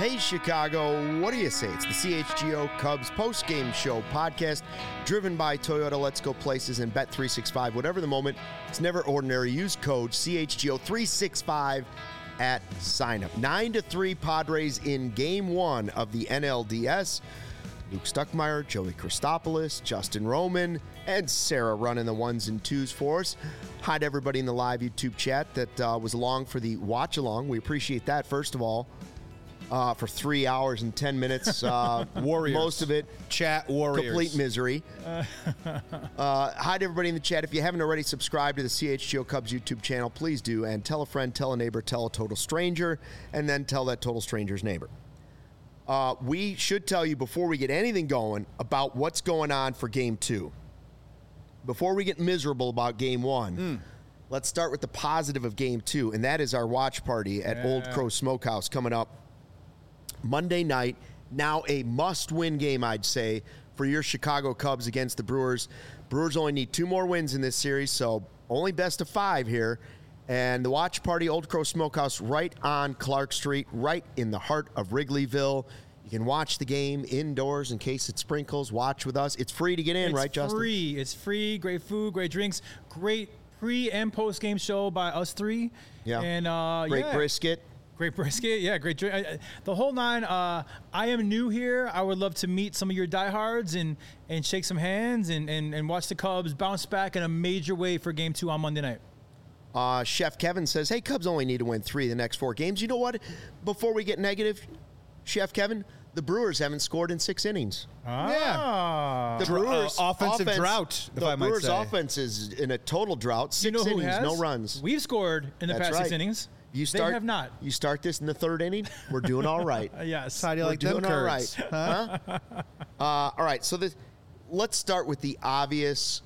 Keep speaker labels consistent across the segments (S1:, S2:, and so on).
S1: Hey, Chicago, what do you say? It's the CHGO Cubs post-game show podcast driven by Toyota Let's Go Places and Bet365. Whatever the moment, it's never ordinary. Use code CHGO365 at sign-up. 9-3 Padres in Game 1 of the NLDS. Luke Stuckmeyer, Joey Christopoulos, Justin Roman, and Sarah running the ones and twos for us. Hi to everybody in the live YouTube chat that was along for the watch-along. We appreciate that, first of all. For 3 hours and 10 minutes.
S2: Warriors.
S1: Most of it.
S2: Chat warriors.
S1: Complete misery. Hi to everybody in the chat. If you haven't already subscribed to the CHGO Cubs YouTube channel, please do. And tell a friend, tell a neighbor, tell a total stranger, and then tell that total stranger's neighbor. We should tell you before we get anything going about what's going on for Game 2. Before we get miserable about Game 1, let's start with the positive of Game 2, and that is our watch party at Old Crow Smokehouse coming up Monday night. Now a must-win game, I'd say, for your Chicago Cubs against the Brewers. Brewers only need 2 more wins in this series, so only best of 5 here. And the watch party, Old Crow Smokehouse, right on Clark Street, right in the heart of Wrigleyville. You can watch the game indoors in case it sprinkles. Watch with us. It's free to get in, right, Justin?
S3: It's free. Great food, great drinks, great pre- and post-game show by us 3.
S1: Yeah.
S3: And
S1: great brisket.
S3: Great brisket, yeah, great drink. The whole 9. I am new here. I would love to meet some of your diehards and shake some hands and watch the Cubs bounce back in a major way for Game 2 on Monday night.
S1: Chef Kevin says, hey, Cubs only need to win 3 of the next 4 games. You know what? Before we get negative, Chef Kevin, the Brewers haven't scored in 6 innings.
S2: Yeah.
S1: The Brewers'
S2: offensive drought, if I might say.
S1: The Brewers' offense is in a total drought. 6 innings, no runs.
S3: We've scored in the past 6 innings. They have not.
S1: You start this in the 3rd inning, we're doing all right.
S3: Yes.
S2: How do you like them
S1: doing all
S2: curds?
S1: right. Huh? All right, so let's start with the obvious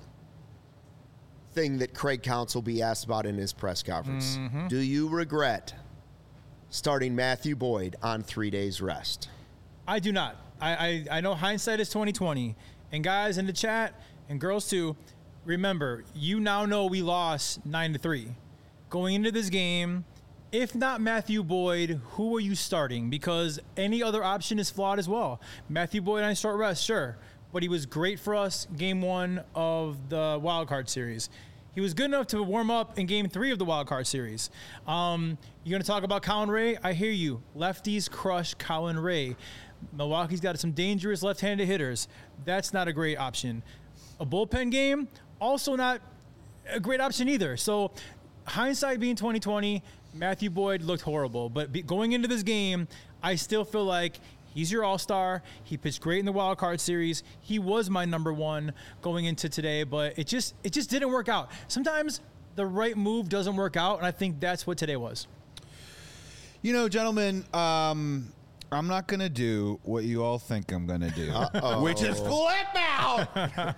S1: thing that Craig Counsell will be asked about in his press conference. Mm-hmm. Do you regret starting Matthew Boyd on 3 days rest?
S3: I do not. I know hindsight is 20/20. And guys in the chat, and girls too, remember, you now know we lost 9-3. Going into this game, if not Matthew Boyd, who are you starting? Because any other option is flawed as well. Matthew Boyd on short rest, sure. But he was great for us Game 1 of the Wild Card Series. He was good enough to warm up in Game 3 of the Wild Card Series. You're going to talk about Colin Ray? I hear you. Lefties crush Colin Ray. Milwaukee's got some dangerous left-handed hitters. That's not a great option. A bullpen game, also not a great option either. So hindsight being 20/20, Matthew Boyd looked horrible. But going into this game, I still feel like he's your all-star. He pitched great in the Wild Card Series. He was my number 1 going into today, but it just didn't work out. Sometimes the right move doesn't work out, and I think that's what today was.
S2: You know, gentlemen, I'm not going to do what you all think I'm going to do, which is flip out.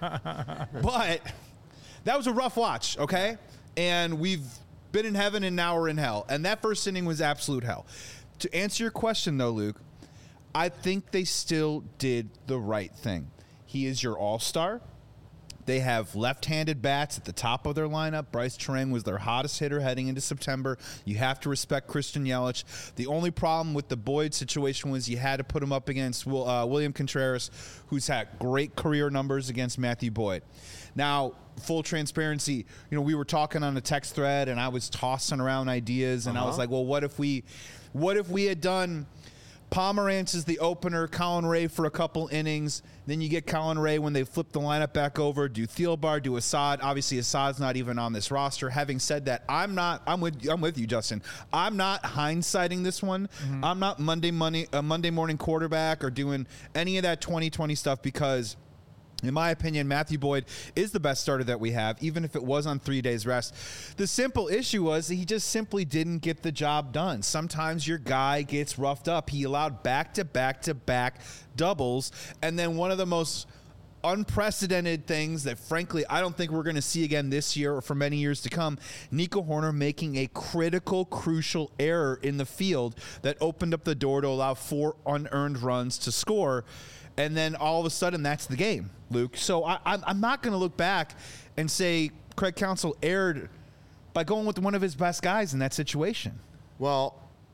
S2: But that was a rough watch, okay? And we've been in heaven and now we're in hell. And that first inning was absolute hell. To answer your question, though, Luke, I think they still did the right thing. He is your all-star. They have left-handed bats at the top of their lineup. Bryce Terang was their hottest hitter heading into September. You have to respect Christian Yelich. The only problem with the Boyd situation was you had to put him up against William Contreras, who's had great career numbers against Matthew Boyd. Now, full transparency, we were talking on a text thread, and I was tossing around ideas, and I was like, well, what if we had done Pomerantz is the opener, Colin Ray for a couple innings. Then you get Colin Ray when they flip the lineup back over. Do Thielbar, do Assad. Obviously, Assad's not even on this roster. Having said that, I'm with you, Justin. I'm not hindsighting this one. Mm-hmm. I'm not Monday morning quarterback or doing any of that 2020 stuff because, in my opinion, Matthew Boyd is the best starter that we have, even if it was on 3 days rest. The simple issue was that he just simply didn't get the job done. Sometimes your guy gets roughed up. He allowed back-to-back-to-back doubles, and then one of the most unprecedented things that, frankly, I don't think we're going to see again this year or for many years to come, Nico Hoerner making a critical, crucial error in the field that opened up the door to allow 4 unearned runs to score. And then all of a sudden, that's the game, Luke. So I'm not going to look back and say Craig Counsell erred by going with one of his best guys in that situation.
S1: Well,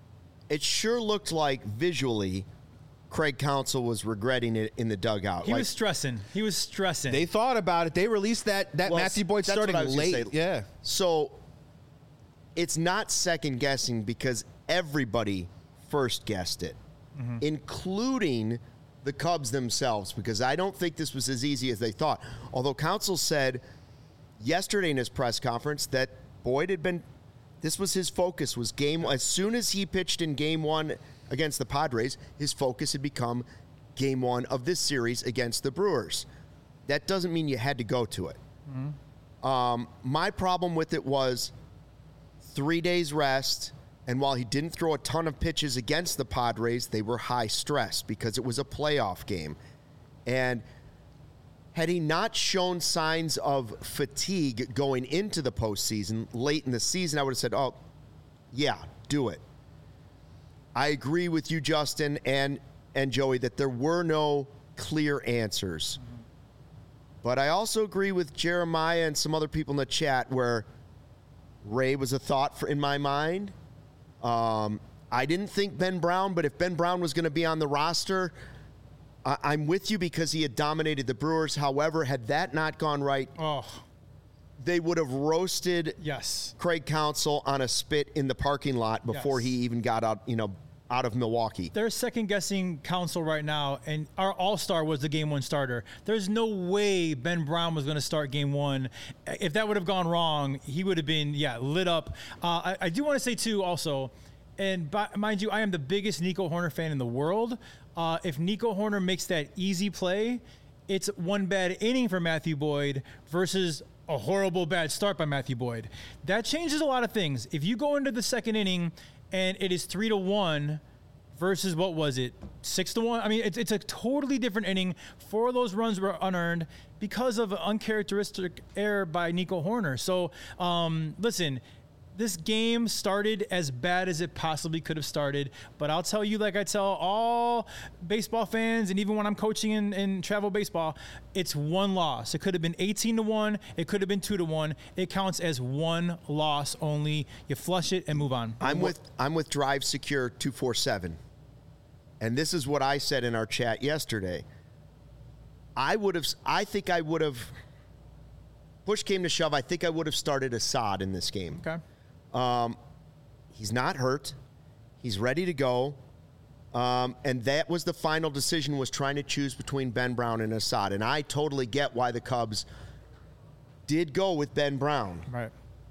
S1: it sure looked like visually Craig Counsell was regretting it in the dugout.
S3: He was stressing.
S2: They thought about it. They released that Matthew Boyd starting late. Yeah.
S1: So it's not second guessing because everybody first guessed it, including the Cubs themselves, because I don't think this was as easy as they thought. Although Counsell said yesterday in his press conference that Boyd had been, this was his focus, was game. As soon as he pitched in game one against the Padres, his focus had become game one of this series against the Brewers. That doesn't mean you had to go to it. My problem with it was 3 days rest, and while he didn't throw a ton of pitches against the Padres, they were high stress because it was a playoff game. And had he not shown signs of fatigue going into the postseason late in the season, I would have said, oh, yeah, do it. I agree with you, Justin, and Joey, that there were no clear answers. But I also agree with Jeremiah and some other people in the chat where Ray was a thought in my mind. I didn't think Ben Brown, but if Ben Brown was going to be on the roster, I'm with you because he had dominated the Brewers. However, had that not gone right, they would have roasted Craig Counsell on a spit in the parking lot before he even got out of Milwaukee.
S3: They're second-guessing Counsell right now, and our all-star was the Game 1 starter. There's no way Ben Brown was going to start Game 1. If that would have gone wrong, he would have been, lit up. I do want to say, too, also, and mind you, I am the biggest Nico Hoerner fan in the world. If Nico Hoerner makes that easy play, it's one bad inning for Matthew Boyd versus a horrible bad start by Matthew Boyd. That changes a lot of things. If you go into the second inning and it is 3-1 versus, what was it, 6-1? I mean, it's a totally different inning. 4 of those runs were unearned because of an uncharacteristic error by Nico Hoerner. So, listen, this game started as bad as it possibly could have started, but I'll tell you, like I tell all baseball fans, and even when I'm coaching in travel baseball, it's one loss. It could have been 18-1. It could have been 2-1. It counts as one loss only. You flush it and move on.
S1: I'm with Drive Secure 247, and this is what I said in our chat yesterday. I think I would have. Push came to shove. I think I would have started Assad in this game.
S3: Okay.
S1: He's not hurt. He's ready to go. And that was the final decision, was trying to choose between Ben Brown and Assad. And I totally get why the Cubs did go with Ben Brown.
S3: Right.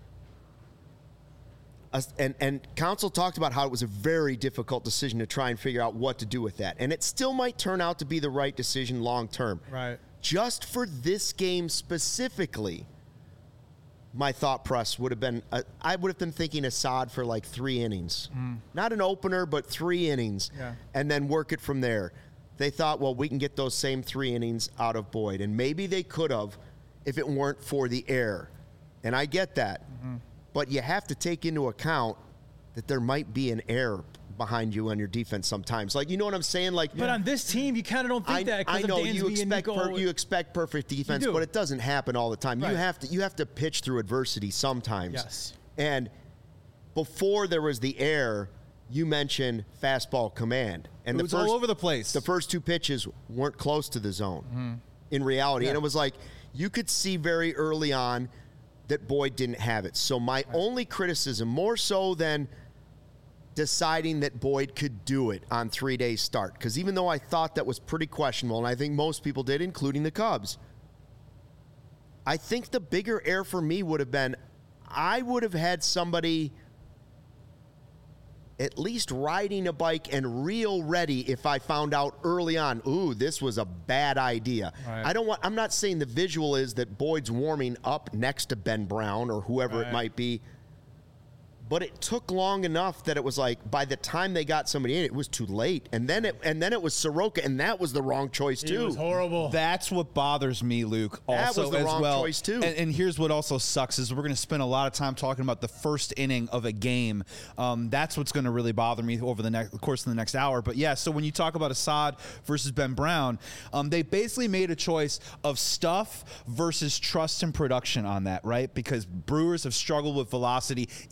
S1: And Counsell talked about how it was a very difficult decision to try and figure out what to do with that. And it still might turn out to be the right decision long term.
S3: Right.
S1: Just for this game specifically, my thought process would have been, I would have been thinking Assad for like 3 innings. Not an opener, but 3 innings.
S3: Yeah.
S1: And then work it from there. They thought, well, we can get those same 3 innings out of Boyd. And maybe they could have if it weren't for the error. And I get that. But you have to take into account that there might be an error behind you on your defense sometimes. Like, you know what I'm saying? Like,
S3: but on this team, you kind of don't think that.
S1: I know you expect perfect defense, but it doesn't happen all the time.
S3: Right.
S1: You have to pitch through adversity sometimes.
S3: Yes.
S1: And before there was the error, you mentioned fastball command, and
S2: it was all over the place.
S1: The first 2 pitches weren't close to the zone in reality, and it was like you could see very early on that Boyd didn't have it. So my only criticism, more so than deciding that Boyd could do it on 3 days start, because even though I thought that was pretty questionable, and I think most people did, including the Cubs, I think the bigger error for me would have been, I would have had somebody at least riding a bike and real ready if I found out early on, ooh, this was a bad idea.
S3: Right.
S1: I'm not saying the visual is that Boyd's warming up next to Ben Brown or whoever it might be, but it took long enough that it was like by the time they got somebody in, it was too late. And then it was Soroka, and that was the wrong choice too.
S3: It was horrible.
S2: That's what bothers me, Luke. Also,
S1: that was the wrong choice too.
S2: And here's what also sucks is we're going to spend a lot of time talking about the first inning of a game. That's what's going to really bother me over the course of the next hour. But yeah, so when you talk about Assad versus Ben Brown, they basically made a choice of stuff versus trust and production on that, right? Because Brewers have struggled with velocity even more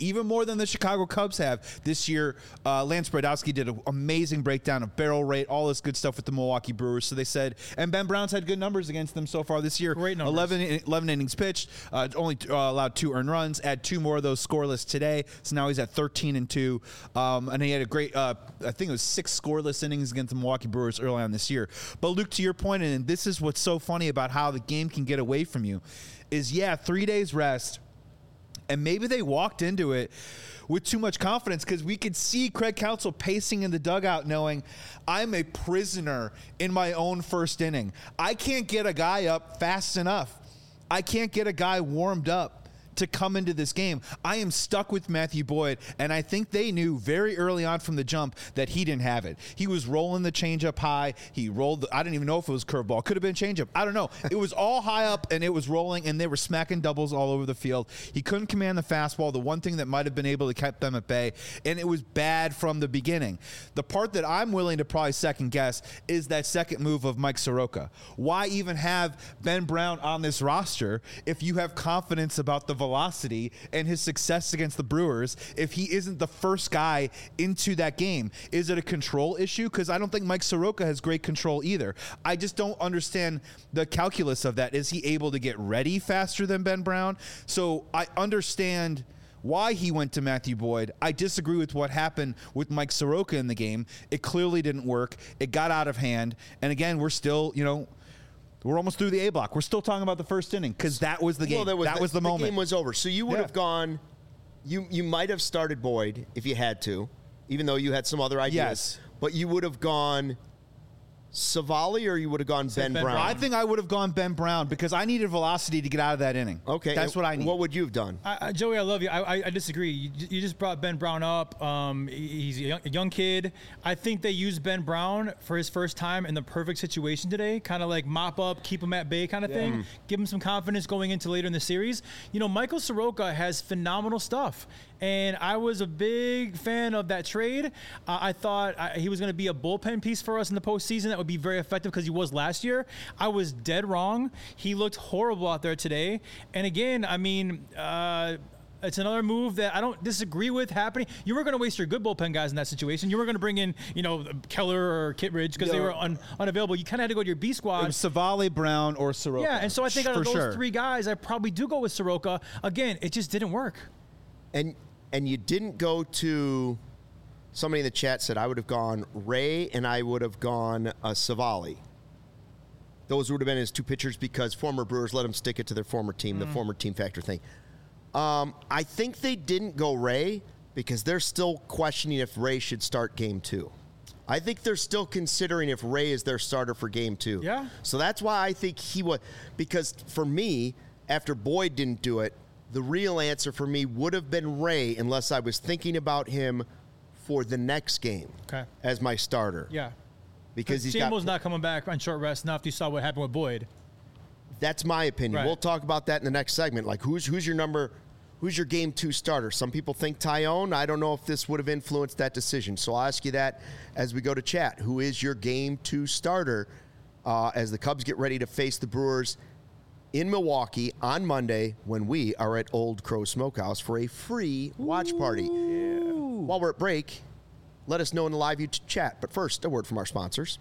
S2: more than the Chicago Cubs have this year. Lance Brodowski did an amazing breakdown of barrel rate, all this good stuff with the Milwaukee Brewers. So they said, and Ben Brown's had good numbers against them so far this year.
S3: Great numbers.
S2: 11 innings pitched, only allowed 2 earned runs, add 2 more of those scoreless today. So now he's at 13-2. And he had a great, I think it was 6 scoreless innings against the Milwaukee Brewers early on this year. But Luke, to your point, and this is what's so funny about how the game can get away from you, is 3 days rest. And maybe they walked into it with too much confidence because we could see Craig Counsell pacing in the dugout knowing I'm a prisoner in my own first inning. I can't get a guy up fast enough. I can't get a guy warmed up to come into this game. I am stuck with Matthew Boyd, and I think they knew very early on from the jump that he didn't have it. He was rolling the changeup high. He rolled I didn't even know if it was curveball. Could have been changeup. I don't know. It was all high up, and it was rolling, and they were smacking doubles all over the field. He couldn't command the fastball, the one thing that might have been able to keep them at bay, and it was bad from the beginning. The part that I'm willing to probably second guess is that second move of Mike Soroka. Why even have Ben Brown on this roster if you have confidence about the velocity and his success against the Brewers if he isn't the first guy into that game? Is it a control issue? Because I don't think Mike Soroka has great control either. I just don't understand the calculus of that. Is he able to get ready faster than Ben Brown? So I understand why he went to Matthew Boyd. I disagree with what happened with Mike Soroka in the game. It clearly didn't work. It got out of hand. And again, we're still, we're almost through the A block. We're still talking about the first inning because that was the game.
S1: Well,
S2: that was the moment.
S1: The game was over. So you would have gone, you might have started Boyd if you had to, even though you had some other ideas.
S2: Yes.
S1: But you would have gone Savali or you would have gone Ben Brown?
S2: I think I would have gone Ben Brown because I needed velocity to get out of that inning.
S1: Okay.
S2: That's what I need.
S1: What would you have done?
S3: Joey, I love you. I disagree. You just brought Ben Brown up. He's a young kid. I think they used Ben Brown for his first time in the perfect situation today, kind of like mop up, keep him at bay kind of thing, give him some confidence going into later in the series. Michael Soroka has phenomenal stuff. And I was a big fan of that trade. I thought he was going to be a bullpen piece for us in the postseason that would be very effective because he was last year. I was dead wrong. He looked horrible out there today. And again, it's another move that I don't disagree with happening. You were going to waste your good bullpen guys in that situation. You were going to bring in, Keller or Kittredge because they were unavailable. You kind of had to go to your B squad.
S2: It was Savali, Brown, or Soroka.
S3: Yeah, and so I think out of those 3 guys, I probably do go with Soroka. Again, it just didn't work.
S1: And you didn't go to somebody in the chat said I would have gone Ray and I would have gone Savali. Those would have been his 2 pitchers because former Brewers let him stick it to their former team, the former team factor thing. I think they didn't go Ray because they're still questioning if Ray should start game 2. I think they're still considering if Ray is their starter for game 2.
S3: Yeah.
S1: So that's why I think he would, because for me, after Boyd didn't do it, the real answer for me would have been Ray unless I was thinking about him for the next game as my starter.
S3: Yeah.
S1: Because he's
S3: not coming back on short rest enough. You saw what happened with Boyd.
S1: That's my opinion.
S3: Right.
S1: We'll talk about that in the next segment. Like who's your game 2 starter? Some people think Tyone. I don't know if this would have influenced that decision. So I'll ask you that as we go to chat. Who is your game 2 starter as the Cubs get ready to face the Brewers in Milwaukee on Monday when we are at Old Crow Smokehouse for a free watch party? Yeah. While we're at break, let us know in the live YouTube chat. But first, a word from our sponsors.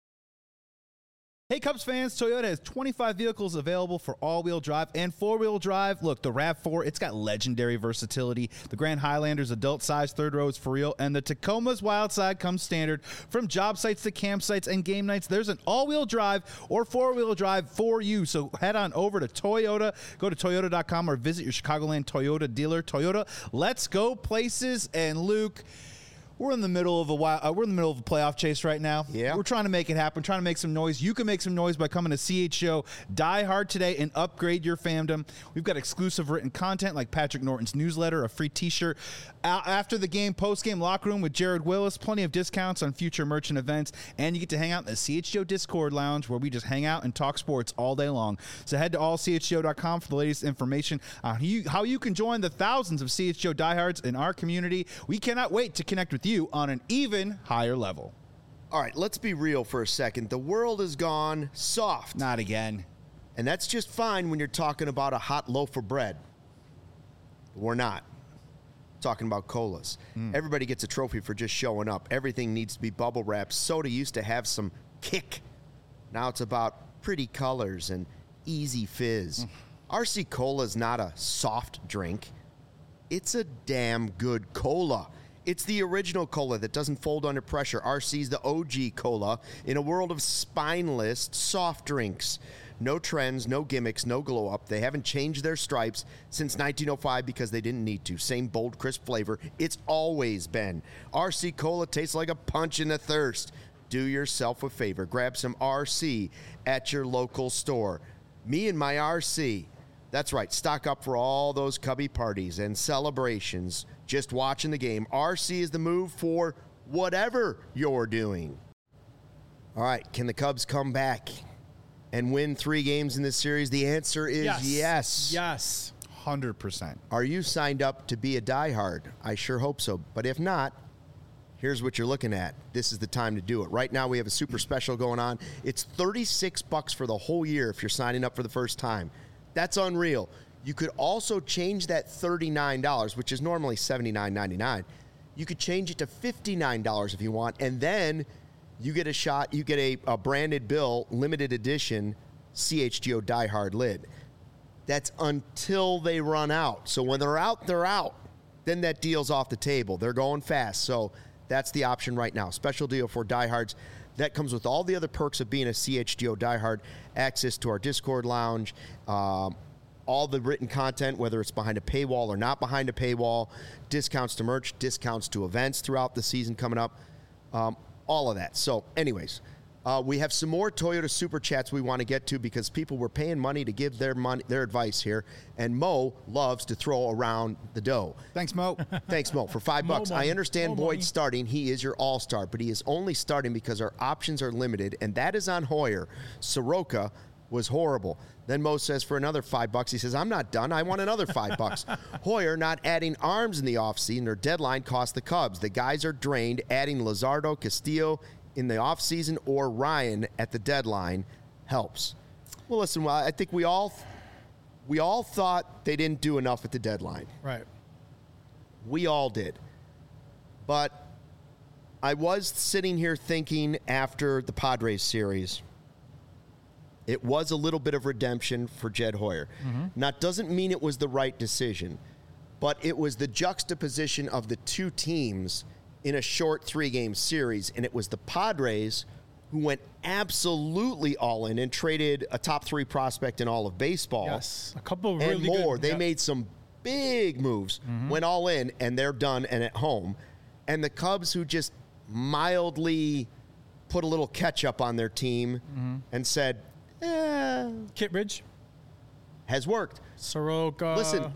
S2: Hey, Cubs fans, Toyota has 25 vehicles available for all-wheel drive and four-wheel drive. Look, the RAV4, it's got legendary versatility. The Grand Highlander's adult-sized third row is for real, and the Tacoma's Wild Side comes standard. From job sites to campsites and game nights, there's an all-wheel drive or four-wheel drive for you. So head on over to Toyota. Go to Toyota.com or visit your Chicagoland Toyota dealer. Toyota, let's go places. And Luke, we're in the middle of a playoff chase right now.
S1: Yeah.
S2: We're trying to make it happen, trying to make some noise. You can make some noise by coming to CHGO Die Hard today and upgrade your fandom. We've got exclusive written content like Patrick Norton's newsletter, a free t-shirt, after the game, post-game locker room with Jared Willis, plenty of discounts on future merch and events, and you get to hang out in the CHGO Discord lounge where we just hang out and talk sports all day long. So head to allchgo.com for the latest information on how you can join the thousands of CHGO diehards in our community. We cannot wait to connect with you on an even higher level.
S1: All right, let's be real for a second. The world has gone soft.
S2: Not again.
S1: And that's just fine when you're talking about a hot loaf of bread. We're not. talking about colas. Everybody gets a trophy for just showing up. Everything needs to be bubble wrapped. Soda used to have some kick. Now it's about pretty colors and easy fizz. RC Cola is not a soft drink. It's a damn good cola. It's the original cola that doesn't fold under pressure. RC's the OG cola in a world of spineless soft drinks. No trends, no gimmicks, no glow up. They haven't changed their stripes since 1905 because they didn't need to. Same bold, crisp flavor. It's always been. RC Cola tastes like a punch in the thirst. Do yourself a favor. Grab some RC at your local store. Me and my RC. That's right. Stock up for all those Cubby parties and celebrations. Just watching the game. RC is the move for whatever you're doing. All right. Can the Cubs come back and win 3 games in this series? The answer is yes.
S3: Yes.
S2: 100%.
S1: Are you signed up to be a diehard? I sure hope so. But if not, here's what you're looking at. This is the time to do it. Right now, we have a super special going on. It's $36 for the whole year if you're signing up for the first time. That's unreal. You could also change that $39, which is normally $79.99. You could change it to $59 if you want, and then you get a shot. You get a branded bill, limited edition CHGO Die Hard lid. That's until they run out. So when they're out, they're out. Then that deal's off the table. They're going fast. So that's the option right now. Special deal for diehards. That comes with all the other perks of being a CHGO diehard. Access to our Discord lounge, all the written content, whether it's behind a paywall or not behind a paywall, discounts to merch, discounts to events throughout the season coming up, all of that. So anyways, we have some more Toyota Super Chats we want to get to because people were paying money to give their advice here, and Mo loves to throw around the dough.
S2: Thanks, Mo.
S1: Thanks, Mo. For $5, I understand Boyd's starting. He is your all-star, but he is only starting because our options are limited, and that is on Hoyer. Soroka was horrible. Then Mo says for another $5, he says, I'm not done. I want another $5. Hoyer not adding arms in the offseason. Their deadline cost the Cubs. The guys are drained. Adding Luzardo, Castillo in the offseason or Ryan at the deadline helps. Well, listen, I think we all thought they didn't do enough at the deadline.
S3: Right.
S1: We all did. But I was sitting here thinking after the Padres series, it was a little bit of redemption for Jed Hoyer. Now, it doesn't mean it was the right decision, but it was the juxtaposition of the two teams in a short 3-game series, and it was the Padres who went absolutely all in and traded a top 3 prospect in all of baseball.
S3: Yes, a couple of
S1: and
S3: really
S1: more.
S3: Good,
S1: they made some big moves, went all in, and they're done and at home. And the Cubs, who just mildly put a little ketchup on their team and said,
S3: Kittredge
S1: has worked.
S3: Soroka.
S1: Listen,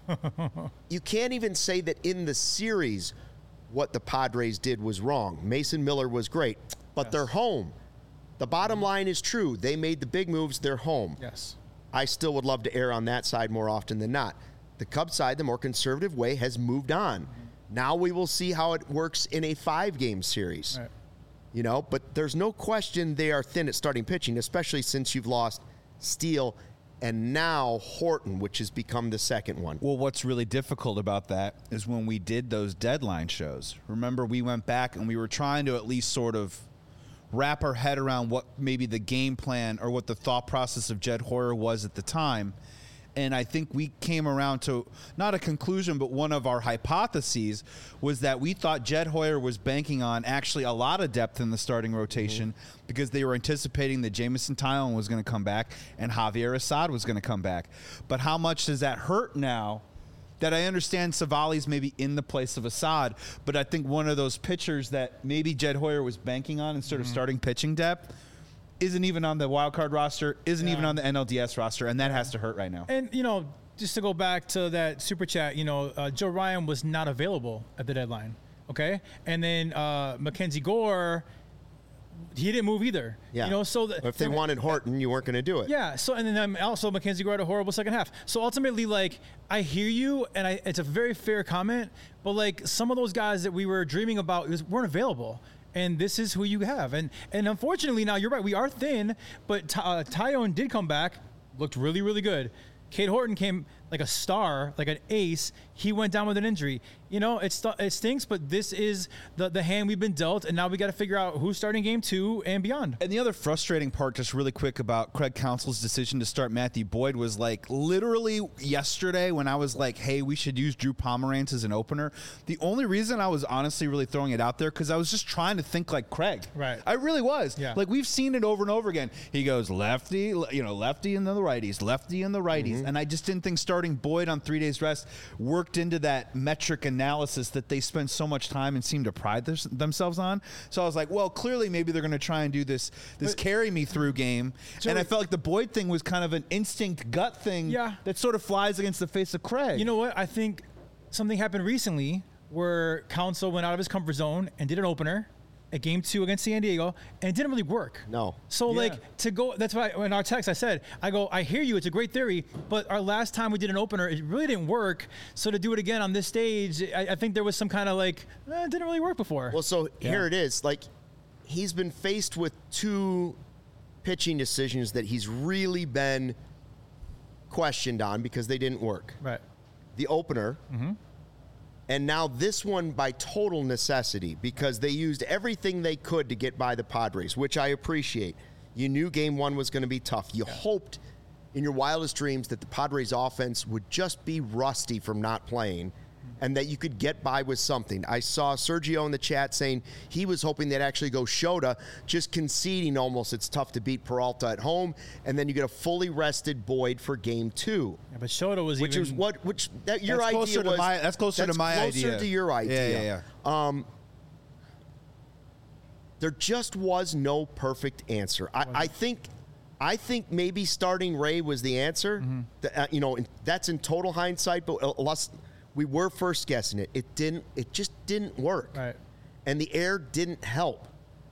S1: you can't even say that in the series what the Padres did was wrong. Mason Miller was great, but they're home. The bottom line is true. They made the big moves. They're home.
S3: Yes.
S1: I still would love to err on that side more often than not. The Cubs side, the more conservative way, has moved on. Now we will see how it works in a 5-game series.
S3: Right.
S1: You know, but there's no question they are thin at starting pitching, especially since you've lost Steele and now Horton, which has become the second one.
S2: Well, what's really difficult about that is when we did those deadline shows. Remember, we went back and we were trying to at least sort of wrap our head around what maybe the game plan or what the thought process of Jed Hoyer was at the time. And I think we came around to not a conclusion, but one of our hypotheses was that we thought Jed Hoyer was banking on actually a lot of depth in the starting rotation because they were anticipating that Jameson Tylen was going to come back and Javier Assad was going to come back. But how much does that hurt now that I understand Savali's maybe in the place of Assad, but I think one of those pitchers that maybe Jed Hoyer was banking on instead of starting pitching depth isn't even on the wild card roster, isn't even on the NLDS roster, and that has to hurt right now.
S3: And, you know, just to go back to that super chat, you know, Joe Ryan was not available at the deadline, okay? And then Mackenzie Gore, he didn't move either.
S1: Yeah.
S3: You know, so
S1: if they wanted Horton, you weren't going to do it.
S3: Yeah. So, and then also Mackenzie Gore had a horrible second half. So ultimately, like, I hear you, and it's a very fair comment, but, like, some of those guys that we were dreaming about weren't available. And this is who you have. And unfortunately, now you're right, we are thin, but Tyone did come back, looked really, really good. Cade Horton came like a star, like an ace, he went down with an injury. It stinks, but this is the hand we've been dealt, and now we got to figure out who's starting game 2 and beyond.
S2: And the other frustrating part, just really quick, about Craig Counsell's decision to start Matthew Boyd was like literally yesterday when I was like, hey, we should use Drew Pomerantz as an opener. The only reason I was honestly really throwing it out there because I was just trying to think like Craig.
S3: Right.
S2: I really was.
S3: Yeah.
S2: Like we've seen it over and over again. He goes lefty, lefty and then the righties, lefty and the righties. And I just didn't think starting Boyd on 3 days rest worked into that metric analysis that they spend so much time and seem to pride themselves on. So I was like, well, clearly maybe they're going to try and do this carry me through game. And I felt like the Boyd thing was kind of an instinct gut thing that sort of flies against the face of Craig.
S3: You know what? I think something happened recently where Counsell went out of his comfort zone and did an opener at game 2 against San Diego, and it didn't really work.
S1: No.
S3: So, to go, that's why in our text I hear you, it's a great theory, but our last time we did an opener, it really didn't work. So to do it again on this stage, I think there was some kind of it didn't really work before.
S1: Well, so here it is. Like, he's been faced with 2 pitching decisions that he's really been questioned on because they didn't work.
S3: Right.
S1: The opener, and now this one by total necessity because they used everything they could to get by the Padres, which I appreciate. You knew game 1 was going to be tough. You hoped in your wildest dreams that the Padres offense would just be rusty from not playing and that you could get by with something. I saw Sergio in the chat saying he was hoping they'd actually go Shota, just conceding almost it's tough to beat Peralta at home, and then you get a fully rested Boyd for game 2.
S3: Yeah, but Shota was
S1: your idea was.
S2: That's closer to my idea.
S1: Closer to your idea.
S2: Yeah.
S1: There just was no perfect answer. I think maybe starting Ray was the answer. That's in total hindsight, but we were first guessing it. It just didn't work.
S3: Right.
S1: And the air didn't help.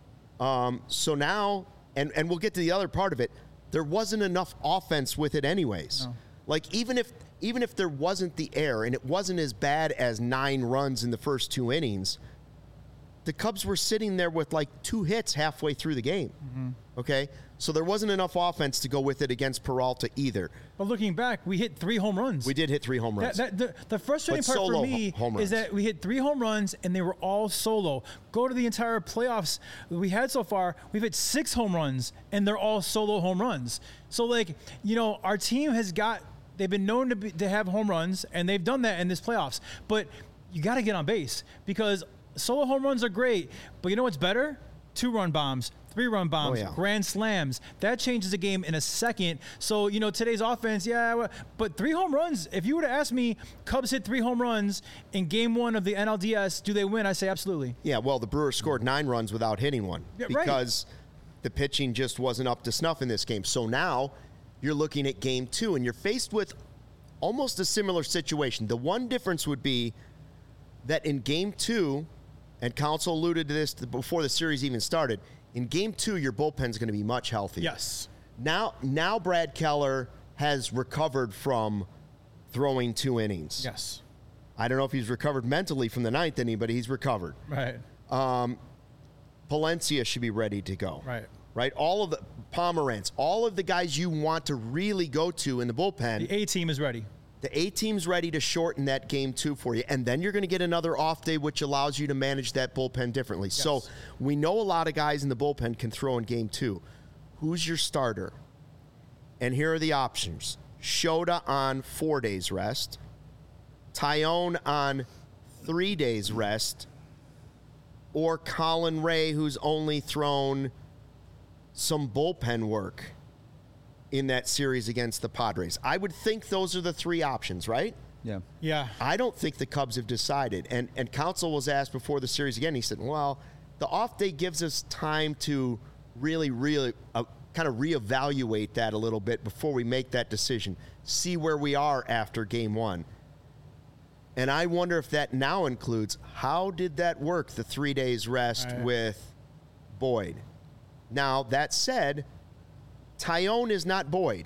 S1: So now, and we'll get to the other part of it, there wasn't enough offense with it anyways.
S3: No.
S1: Like, even if there wasn't the air and it wasn't as bad as 9 runs in the first 2 innings, the Cubs were sitting there with like 2 hits halfway through the game. Okay? So there wasn't enough offense to go with it against Peralta either.
S3: But looking back, we hit 3 home runs.
S1: We did hit 3 home runs.
S3: The frustrating part for me is that we hit 3 home runs and they were all solo. Go to the entire playoffs we had so far, we've hit 6 home runs and they're all solo home runs. So our team they've been known to have home runs and they've done that in this playoffs. But you got to get on base because solo home runs are great, but you know what's better? 2-run bombs, 3-run bombs, grand slams. That changes the game in a second. So, today's offense, but 3 home runs, if you were to ask me, Cubs hit 3 home runs in game 1 of the NLDS, do they win? I say absolutely.
S1: Yeah, well, the Brewers scored 9 runs without hitting one because the pitching just wasn't up to snuff in this game. So now you're looking at game 2, and you're faced with almost a similar situation. The one difference would be that in game 2, and Counsell alluded to this before the series even started, in game 2, your bullpen's going to be much healthier.
S3: Yes.
S1: Now Brad Keller has recovered from throwing 2 innings.
S3: Yes.
S1: I don't know if he's recovered mentally from the 9th inning, but he's recovered.
S3: Right.
S1: Palencia should be ready to go.
S3: Right.
S1: All of the Pomerantz, all of the guys you want to really go to in the bullpen.
S3: The A team is ready.
S1: The A team's ready to shorten that game 2 for you. And then you're going to get another off day, which allows you to manage that bullpen differently. Yes. So we know a lot of guys in the bullpen can throw in game 2. Who's your starter? And here are the options. Shota on 4 days rest. Taillon on 3 days rest. Or Colin Ray, who's only thrown some bullpen work in that series against the Padres. I would think those are the 3 options, right?
S3: Yeah.
S1: I don't think the Cubs have decided. And Counsell was asked before the series again. He said, well, the off day gives us time to really kind of reevaluate that a little bit before we make that decision, see where we are after game 1. And I wonder if that now includes, how did that work, the 3 days rest with Boyd? Now, that said, Taillon is not Boyd.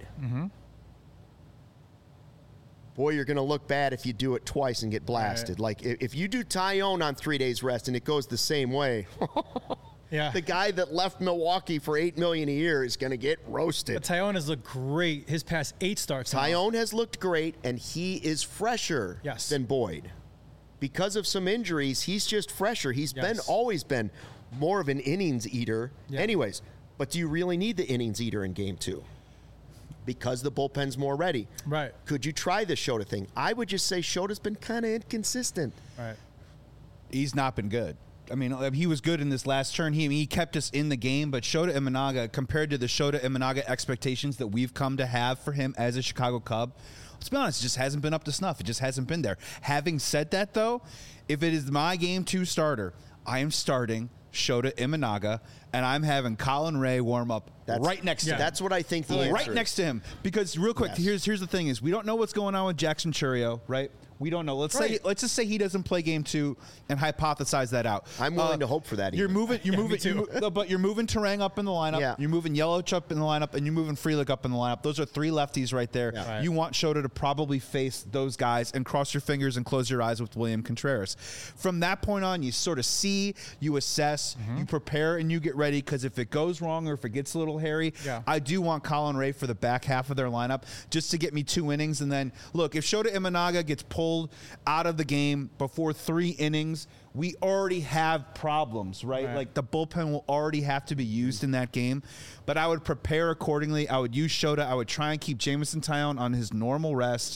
S1: Boy, you're going to look bad if you do it twice and get blasted. Like, if you do Taillon on 3 days rest and it goes the same way,
S3: Yeah.
S1: The guy that left Milwaukee for $8 million a year is going to get roasted.
S3: But Tyone has looked great his past 8 starts.
S1: Tyone has looked great, and he is fresher than Boyd. Because of some injuries, he's just fresher. He's always been more of an innings eater. Yeah. Anyways, but do you really need the innings eater in game 2? Because the bullpen's more ready.
S3: Right.
S1: Could you try the Shota thing? I would just say Shota's been kind of inconsistent.
S3: Right.
S2: He's not been good. I mean, he was good in this last turn. He kept us in the game, but Shota Imanaga, compared to the Shota Imanaga expectations that we've come to have for him as a Chicago Cub, let's be honest, it just hasn't been up to snuff. It just hasn't been there. Having said that, though, if it is my game 2 starter, I am starting Shota Imanaga, and I'm having Colin Ray warm up right next to him.
S1: That's what I think the answer
S2: right
S1: is.
S2: Next to him. Because real quick, here's the thing is we don't know what's going on with Jackson Chourio, right? We don't know. Let's just say he doesn't play game 2 and hypothesize that out.
S1: I'm willing to hope for that.
S2: You're moving but you're moving Terang up in the lineup.
S1: Yeah.
S2: You're moving Yelich up in the lineup, and you're moving Frelick up in the lineup. Those are 3 lefties right there.
S1: Yeah.
S2: Right. You want Shota to probably face those guys and cross your fingers and close your eyes with William Contreras. From that point on, you sort of see, you assess, you prepare, and you get ready, because if it goes wrong or if it gets a little hairy, I do want Colin Ray for the back half of their lineup just to get me 2 innings. And then, look, if Shota Imanaga gets pulled out of the game before 3 innings, we already have problems, right? Like the bullpen will already have to be used in that game. But I would prepare accordingly. I would use Shota. I would try and keep Jameson Taillon on his normal rest.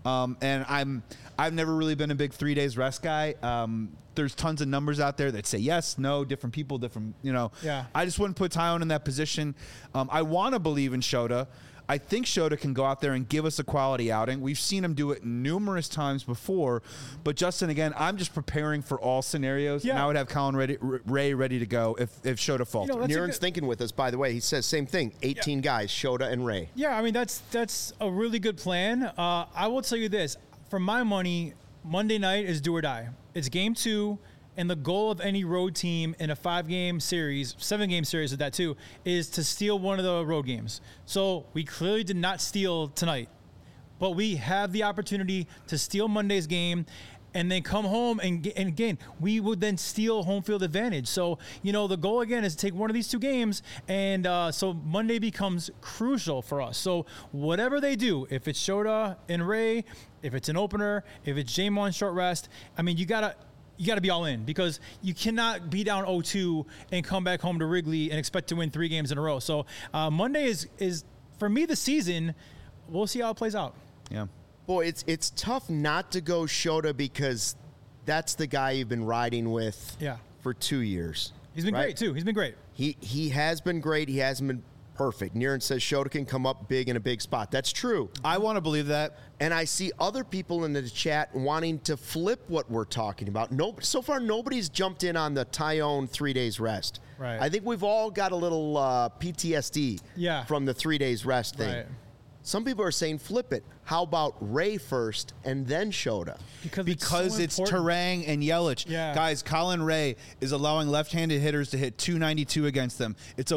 S2: And I've never really been a big 3 days rest guy. There's tons of numbers out there that say yes, no, different people, different,
S3: Yeah.
S2: I just wouldn't put Taillon in that position. I want to believe in Shota. I think Shota can go out there and give us a quality outing. We've seen him do it numerous times before. But, Justin, again, I'm just preparing for all scenarios, and I would have Colin Ray ready to go if Shota faltered.
S1: Niren's thinking with us, by the way. He says same thing, 18 guys, Shota and Ray.
S3: Yeah, I mean, that's a really good plan. I will tell you this. For my money, Monday night is do or die. It's game 2. And the goal of any road team in a 5-game series, 7-game series with that too, is to steal one of the road games. So we clearly did not steal tonight, but we have the opportunity to steal Monday's game and then come home and again, we would then steal home field advantage. So, the goal again is to take one of these 2 games. And so Monday becomes crucial for us. So whatever they do, if it's Shota and Ray, if it's an opener, if it's Jamon short rest, I mean, you got to be all in, because you cannot be down 0-2 and come back home to Wrigley and expect to win 3 games in a row. So Monday is for me the season. We'll see how it plays out.
S2: Yeah.
S1: Boy, it's tough not to go Shota, because that's the guy you've been riding with for 2 years.
S3: He's been great too. He's been great.
S1: He has been great. He hasn't been perfect. Niren says Shota can come up big in a big spot. That's true.
S2: I want to believe that.
S1: And I see other people in the chat wanting to flip what we're talking about. So far, nobody's jumped in on the Taillon 3 days rest.
S3: Right.
S1: I think we've all got a little PTSD from the 3 days rest thing.
S3: Right.
S1: Some people are saying flip it. How about Ray first and then Shota?
S2: Because it's Terang and Yelich.
S3: Yeah.
S2: Guys, Colin Ray is allowing left-handed hitters to hit 292 against them. It's a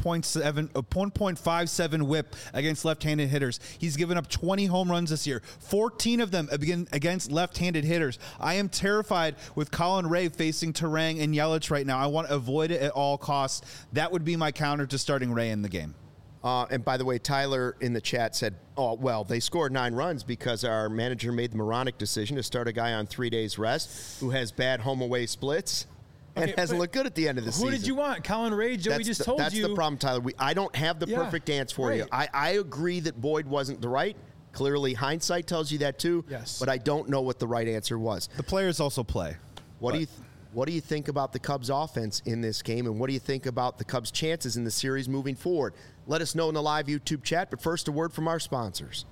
S2: 1.57 whip against left-handed hitters. He's given up 20 home runs this year, 14 of them against left-handed hitters. I am terrified with Colin Ray facing Terang and Yelich right now. I want to avoid it at all costs. That would be my counter to starting Ray in the game.
S1: And by the way, Tyler in the chat said, they scored 9 runs because our manager made the moronic decision to start a guy on 3 days rest who has bad home-away splits and hasn't looked good at the end of the season.
S3: Who did you want? Colin Ray? Joey just told you.
S1: That's the problem, Tyler. I don't have the perfect answer for you. I agree that Boyd wasn't the right. Clearly, hindsight tells you that too.
S3: Yes.
S1: But I don't know what the right answer was.
S2: The players also play.
S1: What do you think about the Cubs' offense in this game, and what do you think about the Cubs' chances in the series moving forward? Let us know in the live YouTube chat, but first a word from our sponsors.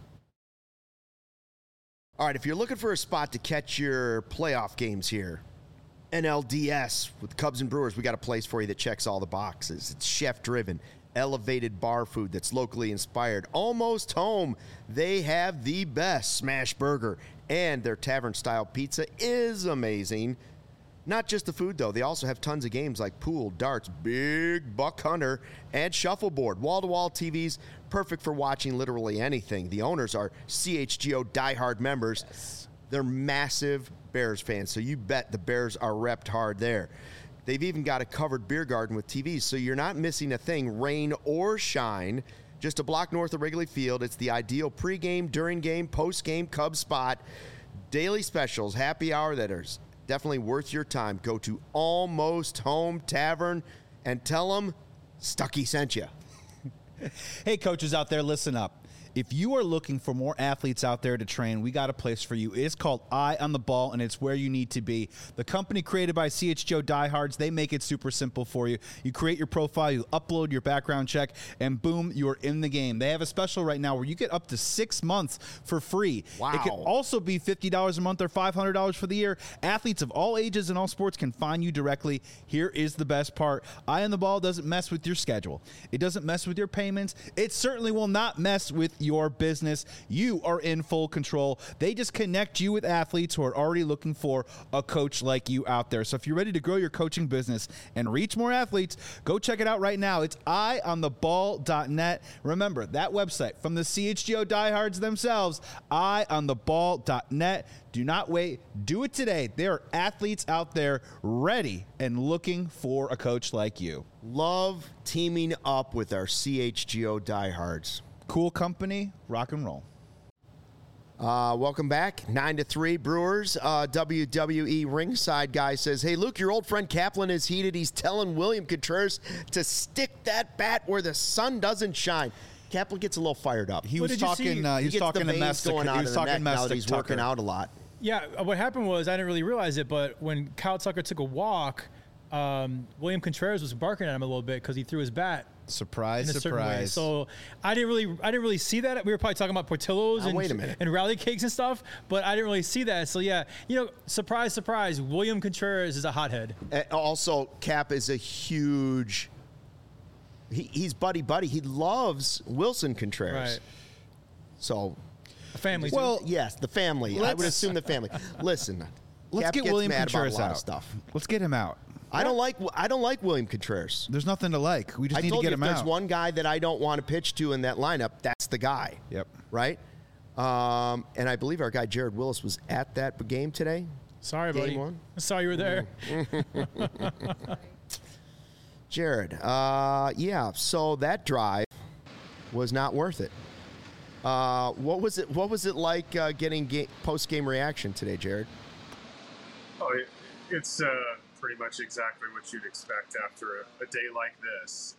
S1: All right, if you're looking for a spot to catch your playoff games here, NLDS with Cubs and Brewers, we got a place for you that checks all the boxes. It's chef-driven, elevated bar food that's locally inspired, almost home. They have the best smash burger, and their tavern-style pizza is amazing. Not just the food, though. They also have tons of games like pool, darts, big buck hunter, and shuffleboard. Wall-to-wall TVs, perfect for watching literally anything. The owners are CHGO diehard members. Yes. They're massive Bears fans, so you bet the Bears are repped hard there. They've even got a covered beer garden with TVs, so you're not missing a thing, rain or shine. Just a block north of Wrigley Field. It's the ideal pregame, during game, post-game Cubs spot. Daily specials, happy hour that are definitely worth your time. Go to Almost Home Tavern and tell them Stuckey sent you.
S2: Hey, coaches out there, listen up. If you are looking for more athletes out there to train, we got a place for you. It's called Eye on the Ball, and it's where you need to be. The company created by CHGO Diehards, they make it super simple for you. You create your profile, you upload your background check, and boom, you're in the game. They have a special right now where you get up to 6 months for free.
S1: Wow.
S2: It can also be $50 a month or $500 for the year. Athletes of all ages and all sports can find you directly. Here is the best part. Eye on the Ball doesn't mess with your schedule. It doesn't mess with your payments. It certainly will not mess with your business. You are in full control. They just connect you with athletes who are already looking for a coach like you out there. So if you're ready to grow your coaching business and reach more athletes, go check it out right now. It's eyeontheball.net. Remember, that website from the CHGO Diehards themselves, eyeontheball.net. Do not wait. Do it today. There are athletes out there ready and looking for a coach like you.
S1: Love teaming up with our CHGO Diehards.
S2: Cool company, rock and roll.
S1: Welcome back. 9-3 Brewers. WWE ringside guy says, "Hey, Luke, your old friend Kaplan is heated. He's telling William Contreras to stick that bat where the sun doesn't shine." Kaplan gets a little fired up.
S2: He was talking to Mestic. He was talking
S1: now that he's working out a lot.
S3: Yeah, what happened was I didn't really realize it, but when Kyle Tucker took a walk, William Contreras was barking at him a little bit because he threw his bat.
S2: Surprise,
S3: in a certain way.
S2: surprise.
S3: So I didn't really see that. We were probably talking about Portillo's and rally cakes and stuff, but I didn't really see that. So yeah, surprise, surprise, William Contreras is a hothead.
S1: Also, Cap is a huge. He's buddy. He loves Wilson Contreras.
S3: Right.
S1: So,
S3: a family.
S1: Well, yes, the family. I would assume the family. Listen,
S2: let's
S1: Cap
S2: get
S1: gets
S2: William
S1: mad
S2: Contreras
S1: about a lot
S2: out.
S1: of stuff.
S2: Let's get him out.
S1: I don't like William Contreras.
S2: There's nothing to like. We just need to get him out.
S1: If there's one guy that I don't want to pitch to in that lineup, that's the guy.
S2: Yep.
S1: Right? And I believe our guy Jared Willis was at that game today.
S3: Sorry,
S1: Game
S3: buddy.
S1: one.
S3: I saw you were there.
S1: Jared, yeah. So that drive was not worth it. What was it like getting post-game reaction today, Jared?
S4: Oh, it's pretty much exactly what you'd expect after a day like this.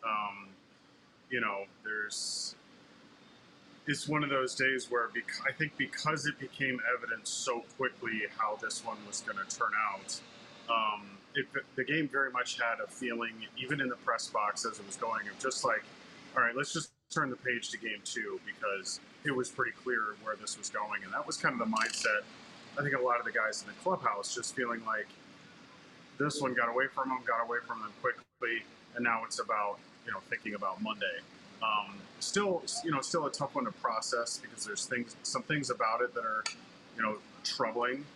S4: It's one of those days where I think because it became evident so quickly how this one was going to turn out, the game very much had a feeling, even in the press box as it was going, of just like, all right, let's just turn the page to game two, because it was pretty clear where this was going. And that was kind of the mindset, I think, a lot of the guys in the clubhouse, just feeling like this one got away from them quickly, and now it's about, thinking about Monday. Still a tough one to process, because there's some things about it that are, troubling.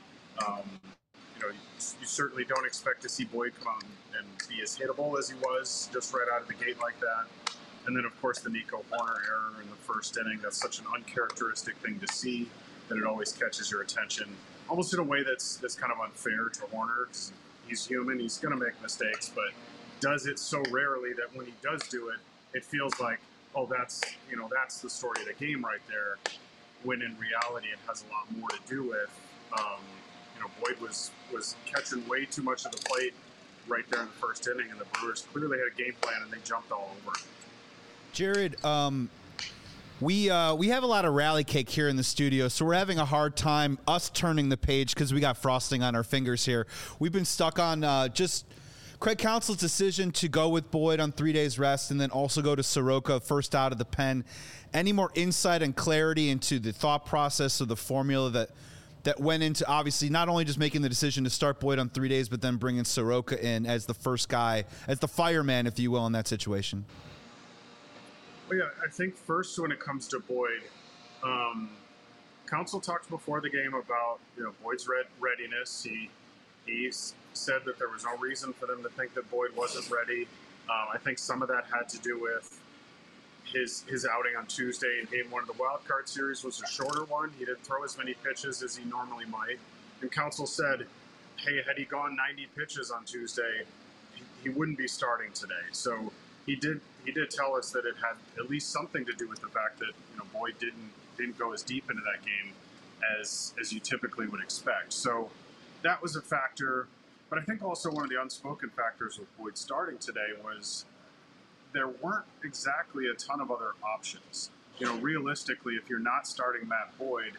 S4: You certainly don't expect to see Boyd come out and be as hittable as he was just right out of the gate like that. And then, of course, the Nico Hoerner error in the first inning. That's such an uncharacteristic thing to see that it always catches your attention, almost in a way that's kind of unfair to Hoerner, because he's human. He's going to make mistakes, but does it so rarely that when he does do it, it feels like, oh, that's the story of the game right there, when in reality it has a lot more to do with, Boyd was catching way too much of the plate right there in the first inning, and the Brewers clearly had a game plan, and they jumped all over it.
S2: Jared, we have a lot of rally cake here in the studio, so we're having a hard time us turning the page because we got frosting on our fingers here. We've been stuck on just Craig Counsell's decision to go with Boyd on 3 days rest and then also go to Soroka first out of the pen. Any more insight and clarity into the thought process of the formula that went into, obviously, not only just making the decision to start Boyd on 3 days, but then bringing Soroka in as the first guy, as the fireman, if you will, in that situation?
S4: Well, yeah, I think first when it comes to Boyd, Counsell talked before the game about Boyd's readiness. He said that there was no reason for them to think that Boyd wasn't ready. I think some of that had to do with his outing on Tuesday in Game 1 of the Wild Card Series was a shorter one. He didn't throw as many pitches as he normally might. And Counsell said, hey, had he gone 90 pitches on Tuesday, he wouldn't be starting today. So he did tell us that it had at least something to do with the fact that Boyd didn't go as deep into that game as you typically would expect. So that was a factor. But I think also one of the unspoken factors with Boyd starting today was there weren't exactly a ton of other options. Realistically, if you're not starting Matt Boyd,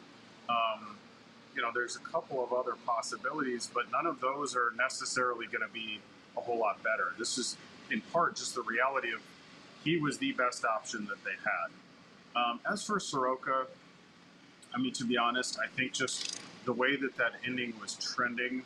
S4: there's a couple of other possibilities, but none of those are necessarily going to be a whole lot better. This is in part just the reality of he was the best option that they had. As for Soroka, to be honest, I think just the way that inning was trending,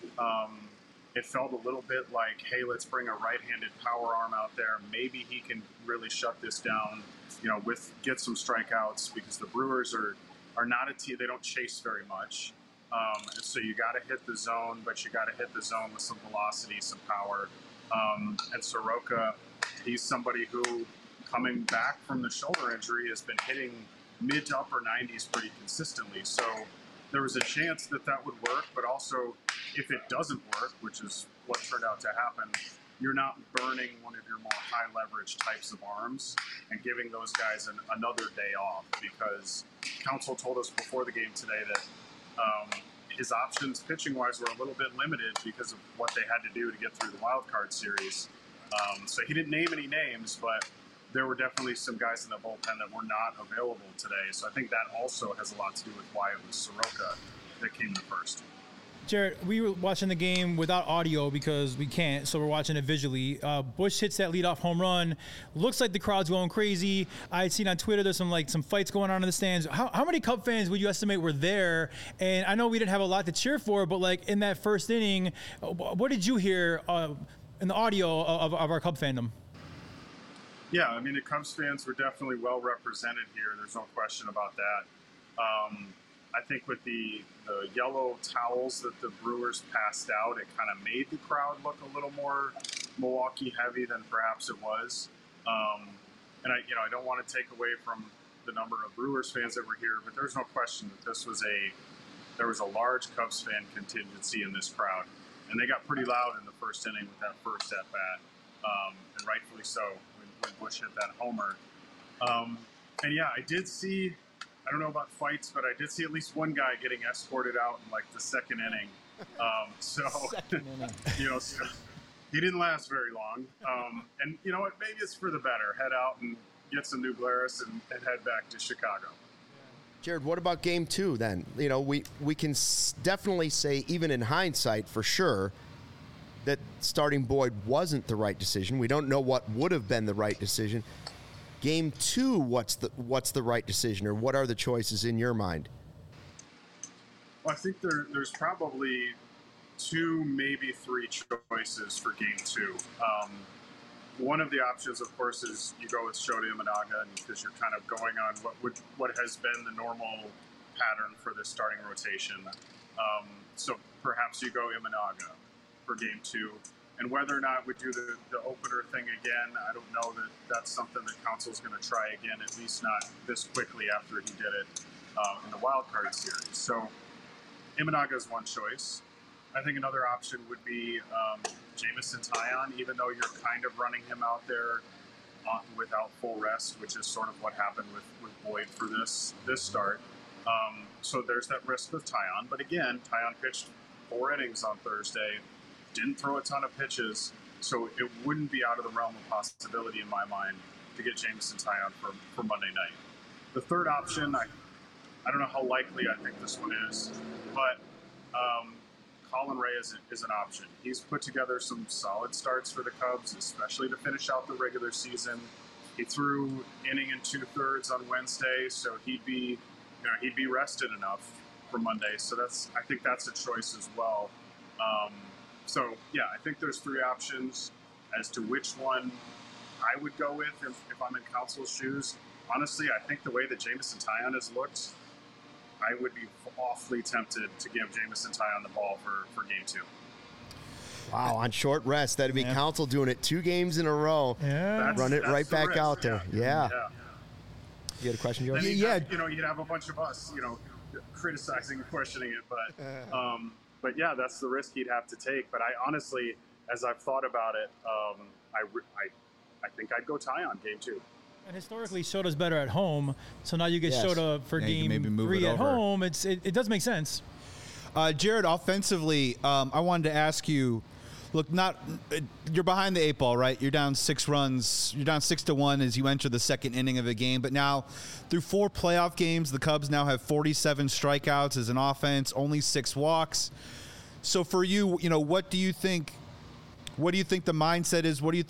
S4: it felt a little bit like, hey, let's bring a right-handed power arm out there. Maybe he can really shut this down, get some strikeouts, because the Brewers are not a team. They don't chase very much. And so you got to hit the zone, but you got to hit the zone with some velocity, some power. And Soroka, he's somebody who, coming back from the shoulder injury, has been hitting mid to upper 90s pretty consistently. So there was a chance that would work, but also if it doesn't work, which is what turned out to happen, you're not burning one of your more high leverage types of arms and giving those guys another day off, because Counsell told us before the game today that his options pitching wise were a little bit limited because of what they had to do to get through the wild card series. So he didn't name any names, but there were definitely some guys in the bullpen that were not available today. So I think that also has a lot to do with why it was Soroka that came in first.
S3: Jared, we were watching the game without audio because we can't, so we're watching it visually. Bush hits that leadoff home run. Looks like the crowd's going crazy. I had seen on Twitter there's some fights going on in the stands. How many Cub fans would you estimate were there? And I know we didn't have a lot to cheer for, but in that first inning, what did you hear in the audio of our Cub fandom?
S4: Yeah, the Cubs fans were definitely well represented here. There's no question about that. I think with the yellow towels that the Brewers passed out, it kind of made the crowd look a little more Milwaukee heavy than perhaps it was. And I don't want to take away from the number of Brewers fans that were here, but there's no question that there was a large Cubs fan contingency in this crowd, and they got pretty loud in the first inning with that first at bat, and rightfully so when Bush hit that homer. And yeah, I did see. I don't know about fights, but I did see at least one guy getting escorted out in the second inning. Second inning. So he didn't last very long. And you know what? Maybe it's for the better. Head out and get some new Glarus and head back to Chicago.
S1: Jared, what about game 2 then? We can definitely say, even in hindsight, for sure, that starting Boyd wasn't the right decision. We don't know what would have been the right decision. Game 2, what's the right decision, or what are the choices in your mind?
S4: Well, I think there's probably 2, maybe 3 choices for game 2. One of the options, of course, is you go with Shota Imanaga, because you're kind of going on what has been the normal pattern for this starting rotation. So perhaps you go Imanaga for game 2. And whether or not we do the opener thing again, I don't know that that's something that Counsell's going to try again, at least not this quickly after he did it in the wild card series. So Imanaga is one choice. I think another option would be Jameson Taillon, even though you're kind of running him out there without full rest, which is sort of what happened with Boyd for this start. So there's that risk with Taillon. But again, Taillon pitched 4 innings on Thursday. Didn't throw a ton of pitches, so it wouldn't be out of the realm of possibility in my mind to get Jameson Taillon for Monday night. The third option, I don't know how likely I think this one is, but Colin Rea is an option. He's put together some solid starts for the Cubs, especially to finish out the regular season. He threw inning and 2/3 on Wednesday, so he'd be rested enough for Monday. So I think that's a choice as well. So, yeah, I think there's 3 options as to which one I would go with if I'm in Counsell's shoes. Honestly, I think the way that Jameson Taillon has looked, I would be awfully tempted to give Jameson Taillon the ball for game 2.
S1: Wow, on short rest. That'd be Counsell doing it 2 games in a row.
S3: Yeah.
S1: Run it right back out there. Yeah. You had a question, George?
S4: You'd have a bunch of us, criticizing and questioning it, but but yeah, that's the risk he'd have to take. But I honestly, as I've thought about it, I think I'd go Taillon game 2.
S3: And historically, Shota's better at home, so now you get
S1: Yes.
S3: Shota for
S2: Yeah, you can maybe
S3: game
S2: move
S3: 3
S2: it
S3: at
S2: over.
S3: home. It does make sense.
S2: Jared, offensively, I wanted to ask you. Look, you're behind the 8 ball, right? You're down 6 runs. You're down 6-1 as you enter the second inning of the game. But now, through 4 playoff games, the Cubs now have 47 strikeouts as an offense, only 6 walks. So for you, what do you think? What do you think the mindset is? What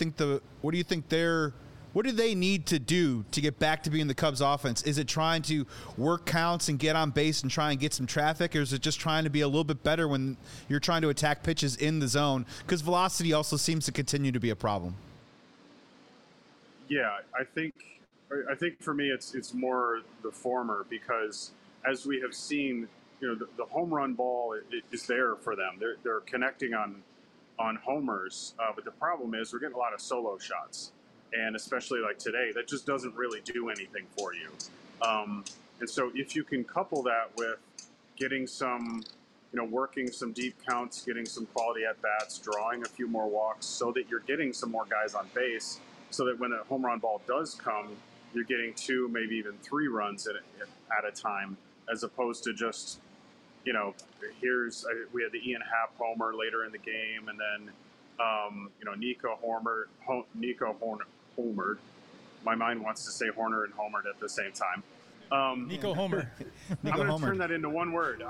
S2: do they need to do to get back to being the Cubs offense? Is it trying to work counts and get on base and try and get some traffic, or is it just trying to be a little bit better when you're trying to attack pitches in the zone? Because velocity also seems to continue to be a problem.
S4: Yeah, I think for me it's more the former, because as we have seen, the home run ball is there for them. They're connecting on homers, but the problem is we're getting a lot of solo shots. And especially like today, that just doesn't really do anything for you. And so if you can couple that with getting some, working some deep counts, getting some quality at-bats, drawing a few more walks so that you're getting some more guys on base, so that when a home run ball does come, you're getting 2, maybe even 3 runs at a time, as opposed to just, we had the Ian Happ homer later in the game, and then, Nico homered. My mind wants to say Horner and homered at the same time.
S3: Nico Homer.
S4: I'm going to turn that into one word.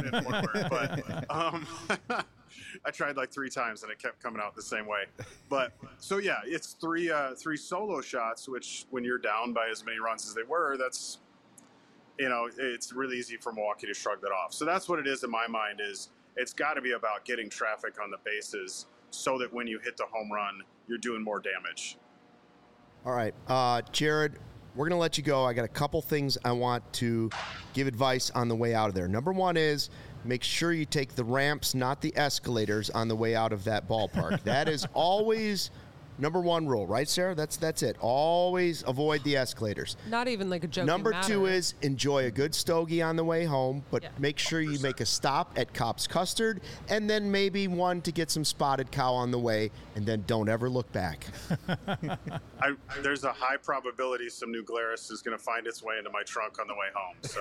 S4: But I tried like 3 times and it kept coming out the same way. But so yeah, it's 3 solo shots, which when you're down by as many runs as they were, that's, it's really easy for Milwaukee to shrug that off. So that's what it is in my mind. Is it's got to be about getting traffic on the bases so that when you hit the home run, you're doing more damage.
S1: All right, Jared, we're going to let you go. I got a couple things I want to give advice on the way out of there. Number 1 is make sure you take the ramps, not the escalators, on the way out of that ballpark. That is always number 1 rule, right, Sarah? That's it. Always avoid the escalators.
S5: Not even like a joking
S1: Number
S5: matter.
S1: 2 is enjoy a good stogie on the way home, but make sure you make a stop at Kopp's Custard, and then maybe one to get some spotted cow on the way, and then don't ever look back.
S4: There's a high probability some New Glarus is going to find its way into my trunk on the way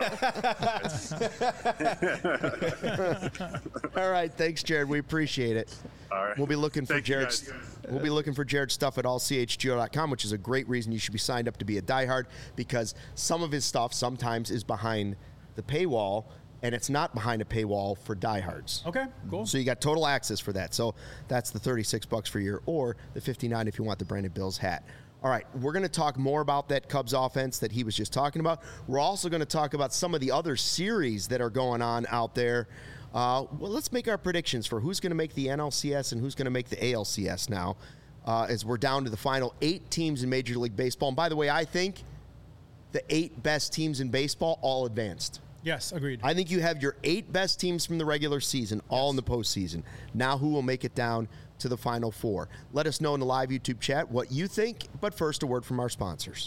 S4: home. So.
S1: All right, thanks, Jared. We appreciate it.
S4: All right.
S1: We'll be looking for
S4: Thank you,
S1: Jared's.
S4: guys.
S1: We'll be looking for Jared's stuff at allchgo.com, which is a great reason you should be signed up to be a diehard, because some of his stuff sometimes is behind the paywall, and it's not behind a paywall for diehards.
S3: Okay, cool.
S1: So you got total access for that. So that's the $36 for a year, or the $59 if you want the Brandon Bills hat. All right, we're going to talk more about that Cubs offense that he was just talking about. We're also going to talk about some of the other series that are going on out there. Well, let's make our predictions for who's going to make the NLCS and who's going to make the ALCS now, as we're down to the final 8 teams in Major League Baseball. And by the way, I think the 8 best teams in baseball all advanced.
S3: Yes, agreed.
S1: I think you have your 8 best teams from the regular season all in the postseason. Now who will make it down to the Final 4? Let us know in the live YouTube chat what you think, but first a word from our sponsors.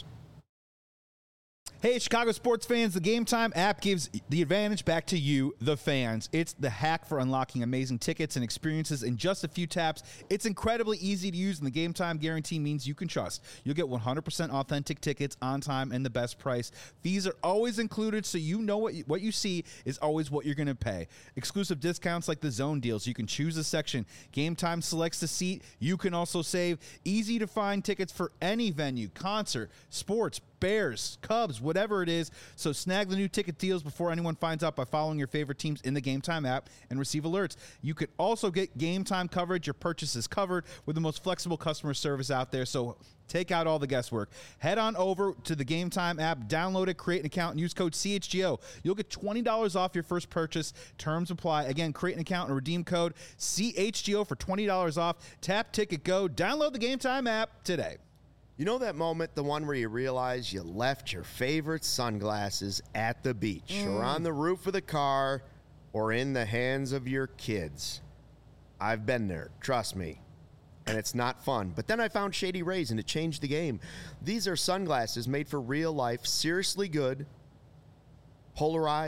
S2: Hey, Chicago sports fans, the Game Time app gives the advantage back to you, the fans. It's the hack for unlocking amazing tickets and experiences in just a few taps. It's incredibly easy to use, and the Game Time guarantee means you can trust. You'll get 100% authentic tickets on time and the best price. Fees are always included, so you know what you see is always what you're going to pay. Exclusive discounts like the zone deals. You can choose a section. Game Time selects the seat. You can also save. Easy to find tickets for any venue, concert, sports, Bears, Cubs, whatever it is. So snag the new ticket deals before anyone finds out by following your favorite teams in the Game Time app and receive alerts. You could also get Game Time coverage. Your purchase is covered with the most flexible customer service out there. So take out all the guesswork. Head on over to the Game Time app, download it, create an account, and use code CHGO. You'll get $20 off your first purchase. Terms apply. Again, create an account and redeem code CHGO for $20 off. Tap, ticket, go. Download the Game Time app today.
S1: You know that moment, the one where you realize you left your favorite sunglasses at the beach or on the roof of the car or in the hands of your kids? I've been there, trust me, and it's not fun. But then I found Shady Rays, and it changed the game. These are sunglasses made for real life, seriously good, polarized,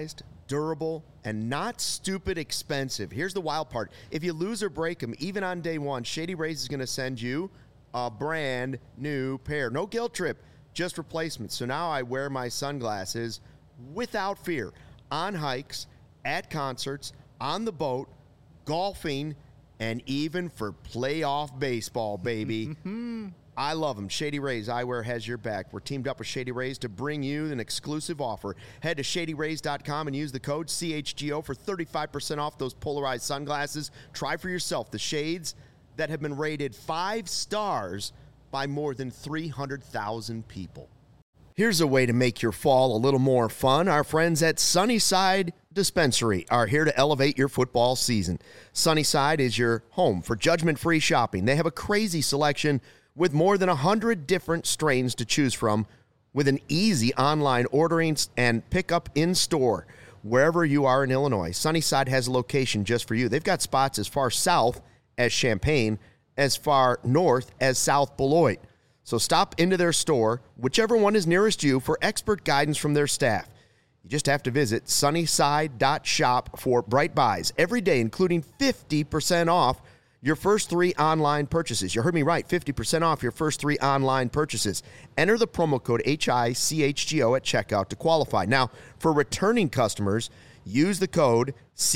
S1: durable, and not stupid expensive. Here's the wild part. If you lose or break them, even on day one, Shady Rays is going to send you a brand new pair. No guilt trip, just replacements. So now I wear my sunglasses without fear on hikes, at concerts, on the boat, golfing, and even for playoff baseball, baby. I love them. Shady Rays Eyewear has your back. We're teamed up with Shady Rays to bring you an exclusive offer. Head to shadyrays.com and use the code CHGO for 35% off those polarized sunglasses. Try for yourself the shades that have been rated 5 stars by more than 300,000 people. Here's a way to make your fall a little more fun. Our friends at Sunnyside Dispensary are here to elevate your football season. Sunnyside is your home for judgment-free shopping. They have a crazy selection with more than 100 different strains to choose from, with an easy online ordering and pickup in-store wherever you are in Illinois. Sunnyside has a location just for you. They've got spots as far south as Champaign, as far north as South Beloit. So stop into their store, whichever one is nearest you, for expert guidance from their staff. You just have to visit sunnyside.shop for bright buys every day, including 50% off your first 3 online purchases. You heard me right, 50% off your first 3 online purchases. Enter the promo code HICHGO at checkout to qualify. Now, for returning customers, use the code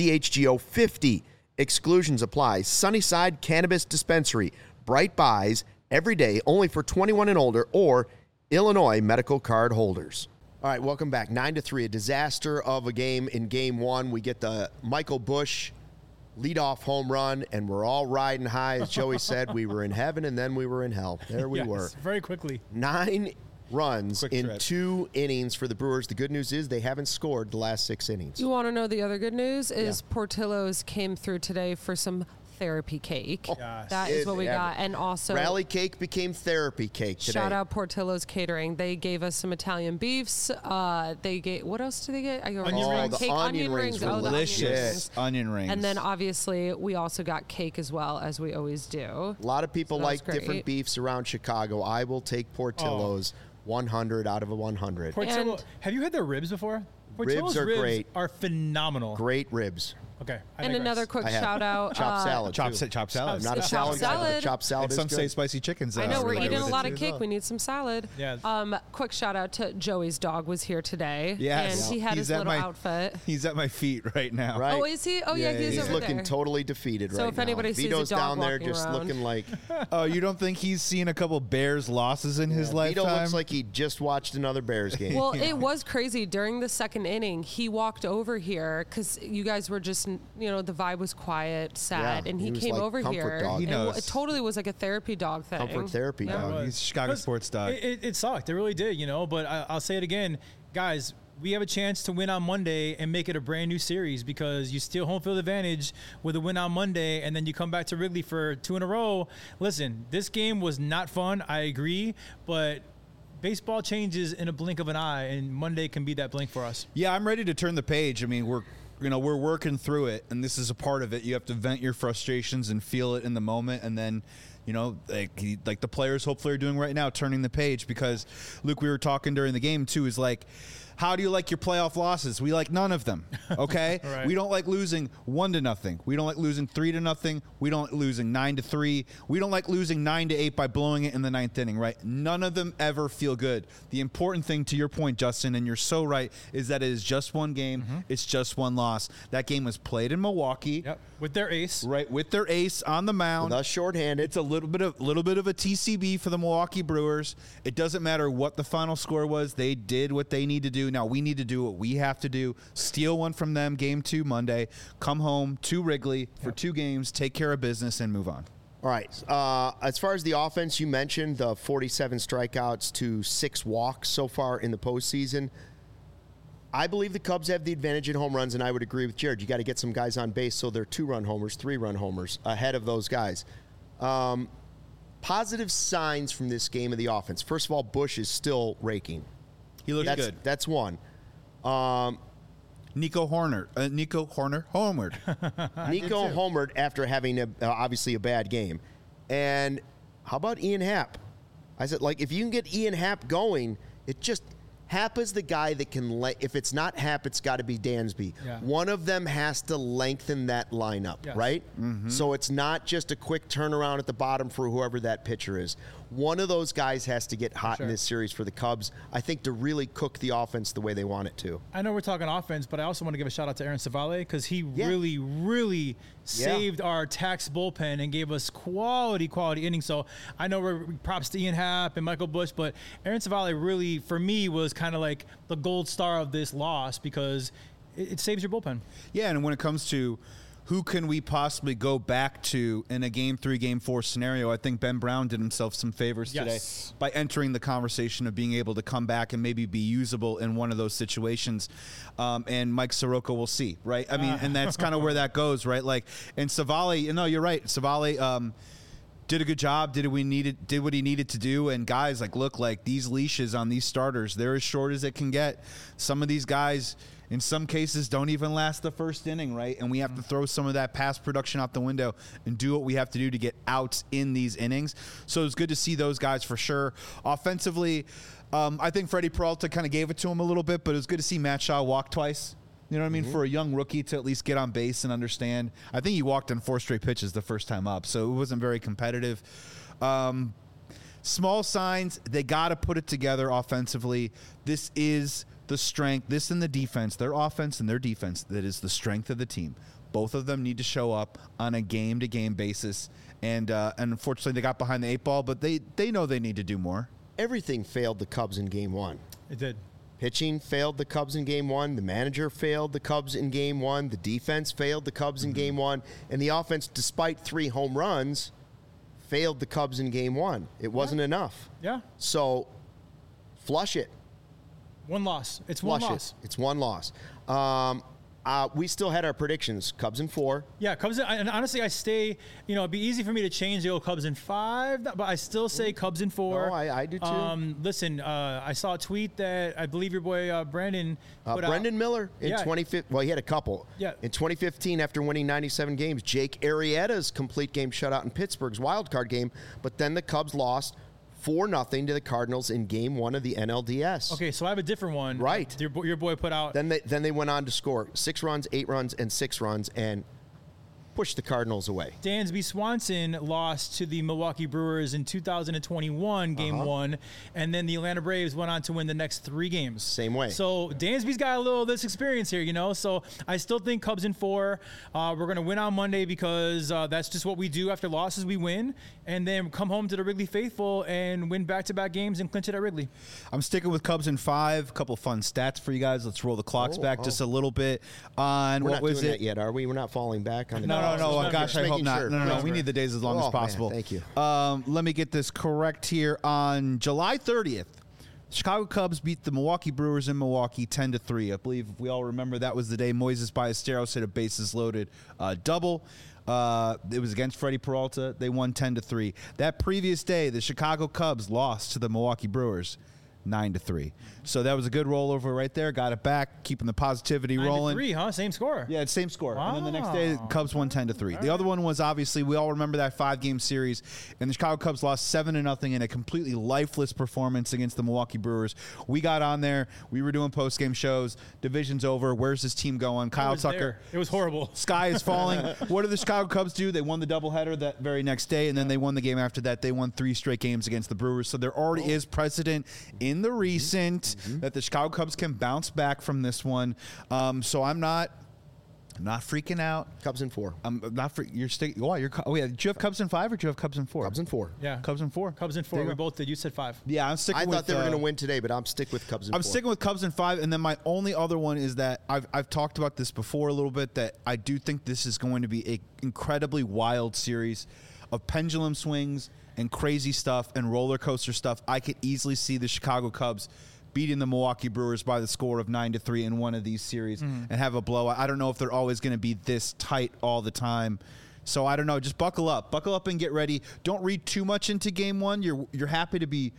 S1: CHGO50. Exclusions apply. Sunnyside Cannabis Dispensary. Bright buys every day, only for 21 and older or Illinois medical card holders. All right, welcome back. 9-3, a disaster of a game in game 1. We get the Michael Busch leadoff home run, and we're all riding high. As Joey said, we were in heaven, and then we were in hell. There we were.
S3: Very quickly.
S1: 9 runs
S2: Quick
S1: in
S2: trip.
S1: 2 innings for the Brewers. The good news is they haven't scored the last 6 innings.
S5: You want to know the other good news is Portillo's came through today for some therapy cake.
S3: Yes.
S5: That is what we got. And also,
S1: Rally cake became therapy cake today.
S5: shout out Portillo's Catering. They gave us some Italian beefs. They gave, what else did they get?
S3: Onion rings.
S1: the onion rings were
S5: Oh, the onion
S2: Delicious
S5: rings.
S2: onion rings.
S5: And then obviously we also got cake as well, as we always do.
S1: A lot of people
S5: So that was
S1: like different
S5: great.
S1: beefs around Chicago. I will take Portillo's 100 out of a 100.
S3: Portillo,
S5: And-
S3: have you had their ribs before?
S1: Ribs
S3: Portillo's
S1: are great.
S3: Are phenomenal.
S1: Great ribs.
S3: Okay. I
S5: And
S3: digress.
S5: another quick
S1: I have
S5: shout out.
S1: chopped salad.
S2: chopped
S1: too.
S2: salad.
S1: I'm not a
S5: Chopped
S1: salad guy, but the
S5: salad.
S1: chopped salad
S2: And
S1: is
S2: some
S1: good.
S2: say spicy chickens.
S5: I know we're
S2: really
S5: eating
S2: good
S5: a lot
S2: too
S5: of
S2: as
S5: cake.
S2: well.
S5: We need some salad.
S3: Yeah.
S5: Quick shout out to Joey's dog was here today.
S2: Yes.
S5: And he had
S2: He's
S5: his
S2: at
S5: little
S2: my-
S5: outfit.
S2: He's at my feet right now.
S1: Right.
S5: Oh, is he? Oh, yeah,
S2: Yeah,
S5: he's
S2: yeah,
S5: over
S1: He's looking
S5: there.
S1: totally defeated
S5: So
S1: right
S5: if
S1: now.
S5: anybody sees a
S1: Vito's
S5: dog
S1: down there
S5: walking
S1: just
S5: around.
S1: looking like
S2: Oh, you don't think he's seen a couple Bears losses in his
S1: Vito
S2: lifetime?
S1: looks like he just watched another Bears game.
S5: Well, it was crazy. During the second inning, he walked over here because you guys were just, the vibe was quiet, sad,
S1: Yeah,
S5: and he
S1: he was
S5: came
S1: like
S5: over
S1: comfort
S5: here.
S1: dog.
S2: He
S5: and
S2: knows.
S5: It totally was like a therapy dog thing.
S1: Comfort therapy
S5: Yeah.
S1: dog.
S2: He's a Chicago
S3: 'Cause
S2: sports dog.
S3: It sucked. It really did, But I'll say it again, guys. We have a chance to win on Monday and make it a brand new series because you steal home field advantage with a win on Monday, and then you come back to Wrigley for 2 in a row. Listen, this game was not fun. I agree, but baseball changes in a blink of an eye, and Monday can be that blink for us.
S2: Yeah, I'm ready to turn the page. I mean, we're working through it, and this is a part of it. You have to vent your frustrations and feel it in the moment, and then, like the players hopefully are doing right now, turning the page. Because, Luke, we were talking during the game too. Is like, how do you like your playoff losses? We like none of them. Okay,
S3: Right.
S2: We don't like losing 1-0. We don't like losing 3-0. We don't like losing 9-3. We don't like losing 9-8 by blowing it in the 9th inning. Right? None of them ever feel good. The important thing, to your point, Justin, and you're so right, is that it is just one game. It's just one loss. That game was played in Milwaukee.
S3: Yep, with their ace.
S2: Right, with their ace on the mound.
S1: With us shorthanded.
S2: It's a little bit of a TCB for the Milwaukee Brewers. It doesn't matter what the final score was. They did what they need to do. Now we need to do what we have to do. Steal one from them, game 2 Monday. Come home to Wrigley for 2 games, take care of business, and move on.
S1: All right. As far as the offense, you mentioned the 47 strikeouts to 6 walks so far in the postseason. I believe the Cubs have the advantage in home runs, and I would agree with Jared. You got to get some guys on base so they're 2-run homers, 3-run homers ahead of those guys. Positive signs from this game of the offense. First of all, Busch is still raking.
S2: He looks
S1: That's
S2: good.
S1: That's one.
S2: Nico Horner homered.
S1: Nico homered after having obviously a bad game. And how about Ian Happ? I said, if you can get Ian Happ going, it just Happ is the guy that can, if it's not Happ, it's got to be Dansby.
S3: Yeah.
S1: One of them has to lengthen that lineup,
S3: Yes.
S1: right? So it's not just a quick turnaround at the bottom for whoever that pitcher is. One of those guys has to get hot in this series for the Cubs, I think, to really cook the offense the way they want it to.
S3: I know we're talking offense, but I also want to give a shout out to Aaron Savale because he really saved our tax bullpen and gave us quality innings. So I know we're props to Ian Happ and Michael Busch, but Aaron Savale really, for me, was kind of like the gold star of this loss because it saves your bullpen.
S2: Yeah, and when it comes to who can we possibly go back to in a Game 3, Game 4 scenario, I think Ben Brown did himself some favors today by entering the conversation of being able to come back and maybe be usable in one of those situations. And Mike Soroka will see, right? I mean, and that's kind of where that goes, right? Like, and Savale, no, you're right. Savale did a good job, did what he needed to do. And guys, like, look, like these leashes on these starters, they're as short as it can get. Some of these guys, in some cases, don't even last the first inning, right? And we have to throw some of that past production out the window and do what we have to do to get outs in these innings. So it's good to see those guys for sure. Offensively, I think Freddie Peralta kind of gave it to him a little bit, but it was good to see Matt Shaw walk twice. You know what I mean? For a young rookie to at least get on base and understand. I think he walked on 4 straight pitches the first time up, so it wasn't very competitive. Small signs, they got to put it together offensively. This is the strength, this and the defense, their offense and their defense, that is the strength of the team. Both of them need to show up on a game-to-game basis, and unfortunately they got behind the 8 ball, but they know they need to do more.
S1: Everything failed the Cubs in Game 1.
S3: It did.
S1: Pitching failed the Cubs in Game 1. The manager failed the Cubs in Game 1. The defense failed the Cubs in Game 1. And the offense, despite 3 home runs, failed the Cubs in Game 1. It wasn't enough.
S3: Yeah.
S1: So, flush it.
S3: One loss. It's one
S1: Flush
S3: loss.
S1: it. It's one loss. We still had our predictions. Cubs in 4.
S3: Yeah, Cubs. And honestly, I stay. You know, it'd be easy for me to change the old Cubs in 5, but I still say Cubs in 4.
S1: Oh, I do too.
S3: Listen, I saw a tweet that I believe your boy Brandon put
S1: Brendan
S3: out.
S1: Miller in 2015. Well, he had a couple.
S3: Yeah.
S1: In 2015, after winning 97 games, Jake Arrieta's complete game shutout in Pittsburgh's wild card game, but then the Cubs lost 4-0 to the Cardinals in Game 1 of the NLDS.
S3: Okay, so I have a different one.
S1: Right.
S3: Your boy put out.
S1: Then they went on to score 6 runs, 8 runs, and 6 runs, and pushed the Cardinals away.
S3: Dansby Swanson lost to the Milwaukee Brewers in 2021, Game 1, and then the Atlanta Braves went on to win the next 3 games.
S1: Same way.
S3: So Dansby's got a little of this experience here, you know. So I still think Cubs in 4. We're going to win on Monday because that's just what we do after losses. We win, and then come home to the Wrigley faithful and win back-to-back games and clinch it at Wrigley.
S2: I'm sticking with Cubs in 5. A couple fun stats for you guys. Let's roll the clocks back just a little bit. On
S1: We're
S2: what
S1: not
S2: was
S1: doing
S2: it?
S1: that yet, are we? We're not falling back on the
S2: No. Gosh, I hope not.
S1: Sure.
S2: No. We need the days as long as possible.
S1: Man, thank you.
S2: Let me get this correct here. On July 30th, Chicago Cubs beat the Milwaukee Brewers in Milwaukee 10-3. I believe if we all remember, that was the day Moises Ballesteros hit a bases loaded double. It was against Freddie Peralta. They won 10-3. That previous day, the Chicago Cubs lost to the Milwaukee Brewers 9-3. So that was a good rollover right there. Got it back, keeping the positivity rolling.
S3: 9-3, huh? Same score.
S2: Yeah, it's same score.
S3: Wow.
S2: And then the next day, the Cubs won 10-3. The other one was obviously, we all remember that 5-game series, and the Chicago Cubs lost 7-0 in a completely lifeless performance against the Milwaukee Brewers. We got on there. We were doing post-game shows. Division's over. Where's this team going? Kyle Tucker.
S3: There. It was horrible.
S2: Sky is falling. What did the Chicago Cubs do? They won the doubleheader that very next day, and then they won the game after that. They won 3 straight games against the Brewers. So there already is precedent in the recent that the Chicago Cubs can bounce back from this one. So I'm not freaking out.
S1: Cubs in 4.
S2: I'm not you're sticking. Oh, yeah. Did you have Cubs in 5 or did you have Cubs in 4?
S1: Cubs in 4.
S3: Yeah.
S2: Cubs in 4.
S3: Cubs in 4. We both did. You said 5.
S2: Yeah, I'm sticking
S1: I
S2: with.
S1: thought they were going to win today, but I'm sticking with Cubs in 4.
S2: I'm sticking with Cubs in 5, and then my only other one is that I've talked about this before a little bit, that I do think this is going to be an incredibly wild series of pendulum swings and crazy stuff and roller coaster stuff. I could easily see the Chicago Cubs beating the Milwaukee Brewers by the score of 9-3 in one of these series and have a blowout. I don't know if they're always going to be this tight all the time. So I don't know. Just buckle up and get ready. Don't read too much into Game 1. You're happy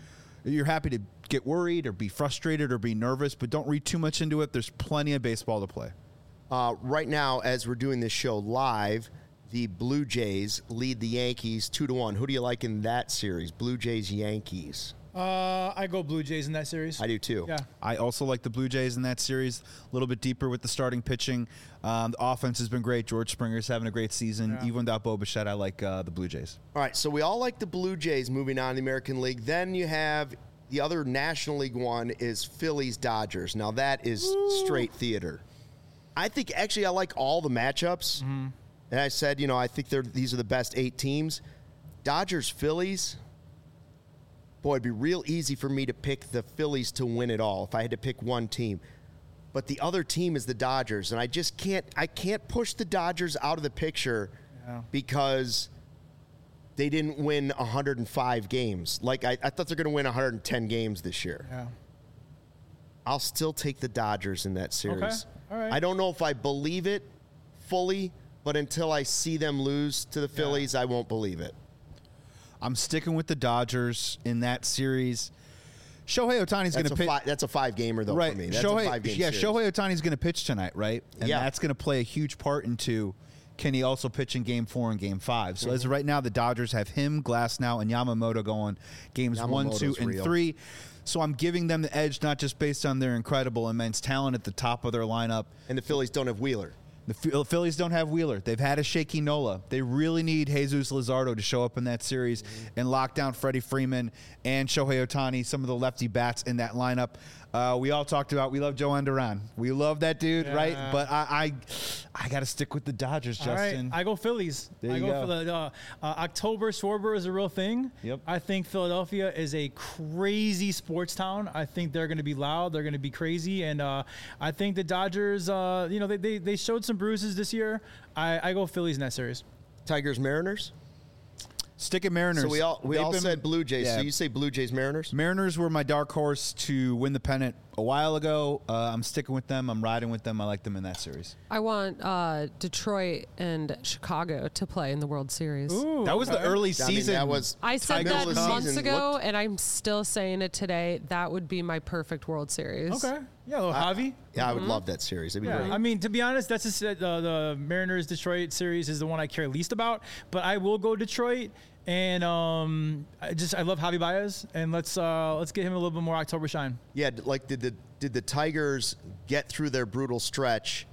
S2: to get worried or be frustrated or be nervous, but don't read too much into it. There's plenty of baseball to play.
S1: Right now, as we're doing this show live, the Blue Jays lead the Yankees 2-1. Who do you like in that series? Blue Jays, Yankees.
S3: I go Blue Jays in that series.
S1: I do too.
S3: Yeah.
S2: I also like the Blue Jays in that series. A little bit deeper with the starting pitching. The offense has been great. George Springer's having a great season.
S3: Yeah.
S2: Even without Bo Bichette, I like the Blue Jays.
S1: All right, so we all like the Blue Jays moving on in the American League. Then you have the other National League one is Phillies Dodgers. Now that is straight theater. I think actually I like all the matchups. Mm-hmm. And I said, I think these are the best 8 teams. Dodgers, Phillies. Boy, it'd be real easy for me to pick the Phillies to win it all if I had to pick one team. But the other team is the Dodgers, and I just can't push the Dodgers out of the picture because they didn't win 105 games. Like, I thought they're going to win 110 games this year.
S3: Yeah.
S1: I'll still take the Dodgers in that series.
S3: Okay. All right.
S1: I don't know if I believe it fully, but until I see them lose to the Phillies, I won't believe it.
S2: I'm sticking with the Dodgers in that series. Shohei Ohtani's going to pitch.
S1: That's a 5-gamer, though,
S2: right.
S1: for me. That's a 5-game series.
S2: Shohei Ohtani's going to pitch tonight, right? And
S1: Yeah.
S2: that's going to play a huge part into can he also pitch in Game 4 and Game 5. So as of right now, the Dodgers have him, Glasnow, and Yamamoto going Games 1, 2, and 3. So I'm giving them the edge, not just based on their incredible, immense talent at the top of their lineup.
S1: And the Phillies don't have Wheeler.
S2: The Phillies don't have Wheeler. They've had a shaky Nola. They really need Jesus Luzardo to show up in that series and lock down Freddie Freeman and Shohei Ohtani, some of the lefty bats in that lineup. We all talked about we love Joan Duran. We love that dude, right? But I got to stick with the Dodgers, Justin.
S3: All right. I go Phillies.
S2: There you
S3: go
S2: go.
S3: for the October Schwarber is a real thing.
S2: Yep.
S3: I think Philadelphia is a crazy sports town. I think they're going to be loud. They're going to be crazy. And I think the Dodgers, they showed some bruises this year. I go Phillies in that series.
S1: Tigers, Mariners?
S2: Stick at Mariners.
S1: So we all said Blue Jays.
S2: Yeah.
S1: So you say Blue Jays, Mariners?
S2: Mariners were my dark horse to win the pennant a while ago. I'm sticking with them. I'm riding with them. I like them in that series.
S5: I want Detroit and Chicago to play in the World Series.
S3: Ooh,
S2: That was the early season.
S1: that was
S5: I said
S1: middle
S5: that
S1: of the
S5: months
S1: season
S5: ago,
S1: looked-
S5: and I'm still saying it today. That would be my perfect World Series.
S3: Okay. Yeah, a little Javi.
S1: Yeah, I would love that series. It'd be
S3: Yeah,
S1: great.
S3: I mean, to be honest, that's just, the Mariners Detroit series is the one I care least about. But I will go Detroit, and I love Javi Baez, and let's get him a little bit more October shine.
S1: Yeah, like did the Tigers get through their brutal stretch,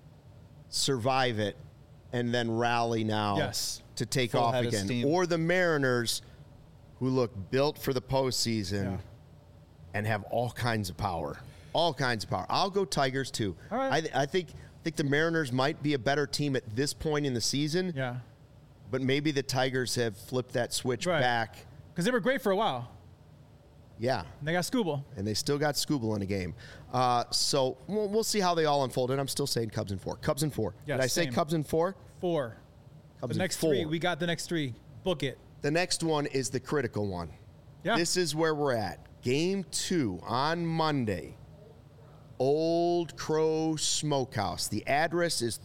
S1: survive it, and then rally now
S3: Yes.
S1: to take
S2: Full
S1: off
S2: head of
S1: again?
S2: steam.
S1: Or the Mariners, who look built for the postseason and have all kinds of power. All kinds of power. I'll go Tigers too.
S3: All right.
S1: I think the Mariners might be a better team at this point in the season.
S3: Yeah,
S1: But maybe the Tigers have flipped that switch
S3: Right.
S1: back.
S3: because they were great for a while.
S1: Yeah.
S3: And they got Scooble.
S1: And they still got Scooble in a game. So we'll see how they all unfold. And I'm still saying Cubs in 4. Cubs in 4.
S3: Yeah,
S1: Did I say
S3: same.
S1: Cubs in 4?
S3: 4.
S1: Cubs
S3: The
S1: in
S3: next
S1: 4.
S3: 3. We got the next 3. Book it.
S1: The next one is the critical one.
S3: Yeah.
S1: This is where we're at. Game 2 on Monday. Old Crow Smokehouse. The address is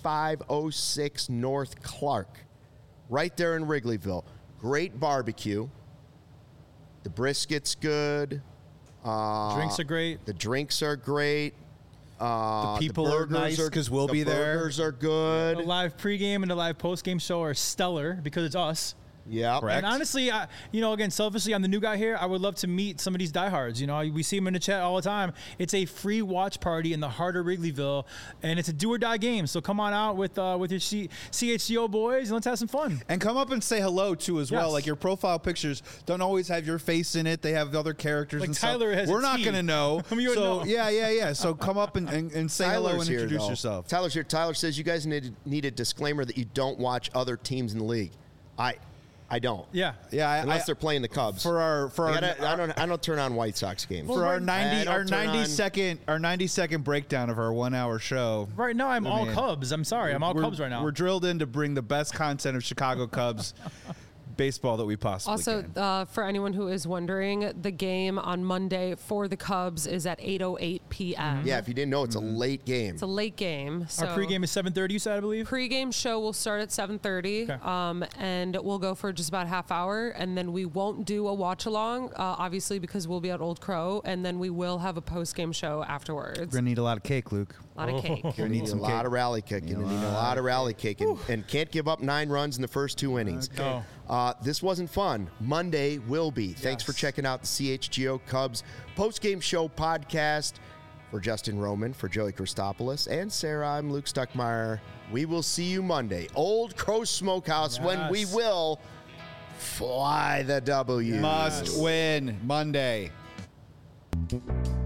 S1: 3506 North Clark, right there in Wrigleyville. Great barbecue. The brisket's good.
S3: Drinks are great.
S1: The drinks are great.
S2: The people are
S1: burgers
S2: nice because we'll be
S1: The
S2: there.
S1: burgers are
S3: The
S1: good.
S3: live pregame and the live postgame show are stellar because it's us.
S1: Yeah.
S2: Correct.
S3: And honestly, again, selfishly, I'm the new guy here. I would love to meet some of these diehards. We see them in the chat all the time. It's a free watch party in the heart of Wrigleyville, and it's a do or die game. So come on out with your CHGO boys and let's have some fun.
S2: And come up and say hello too as well.
S3: Yes.
S2: Like your profile pictures don't always have your face in it. They have other characters
S3: Like
S2: and
S3: Tyler
S2: stuff.
S3: has a
S2: We're not
S3: T.
S2: gonna know.
S3: I mean, you would
S2: so
S3: know.
S2: yeah. So come up and say hello and
S1: here,
S2: introduce
S1: though.
S2: yourself.
S1: Tyler's here. Tyler says you guys need a disclaimer that you don't watch other teams in the league. I don't.
S3: Yeah.
S2: Yeah,
S1: Unless they're playing the Cubs.
S2: I
S1: don't turn on White Sox games.
S2: for our
S1: I
S2: 90
S1: don't
S2: our
S1: turn
S2: 90
S1: on-
S2: second our 90-second breakdown of our 1 hour show.
S3: Right now, I'm all
S2: Man.
S3: Cubs. I'm sorry. I'm all
S2: We're-
S3: Cubs right now.
S2: We're drilled in to bring the best content of Chicago Cubs baseball that we possibly
S5: Also,
S2: can.
S5: for anyone who is wondering, the game on Monday for the Cubs is at 8:08 p.m.
S1: Yeah, if you didn't know, it's a late game.
S5: It's a late game. So
S3: Our pregame is 7:30. You said, I believe.
S5: Pregame show will start at 7:30,
S3: Okay.
S5: and we'll go for just about a half hour, and then we won't do a watch along, obviously because we'll be at Old Crow, and then we will have a postgame show afterwards.
S2: We're gonna need a lot of cake, Luke.
S5: A lot of cake.
S1: You need a lot of rally kicking. You need a lot of rally kicking. And can't give up 9 runs in the first 2 innings.
S3: Okay.
S1: This wasn't fun. Monday will be. Thanks for checking out the CHGO Cubs post-game show podcast. For Justin Roman, for Joey Christopoulos, and Sarah, I'm Luke Stuckmeyer. We will see you Monday. Old Crow Smokehouse, when we will fly the W.
S2: Must win Monday.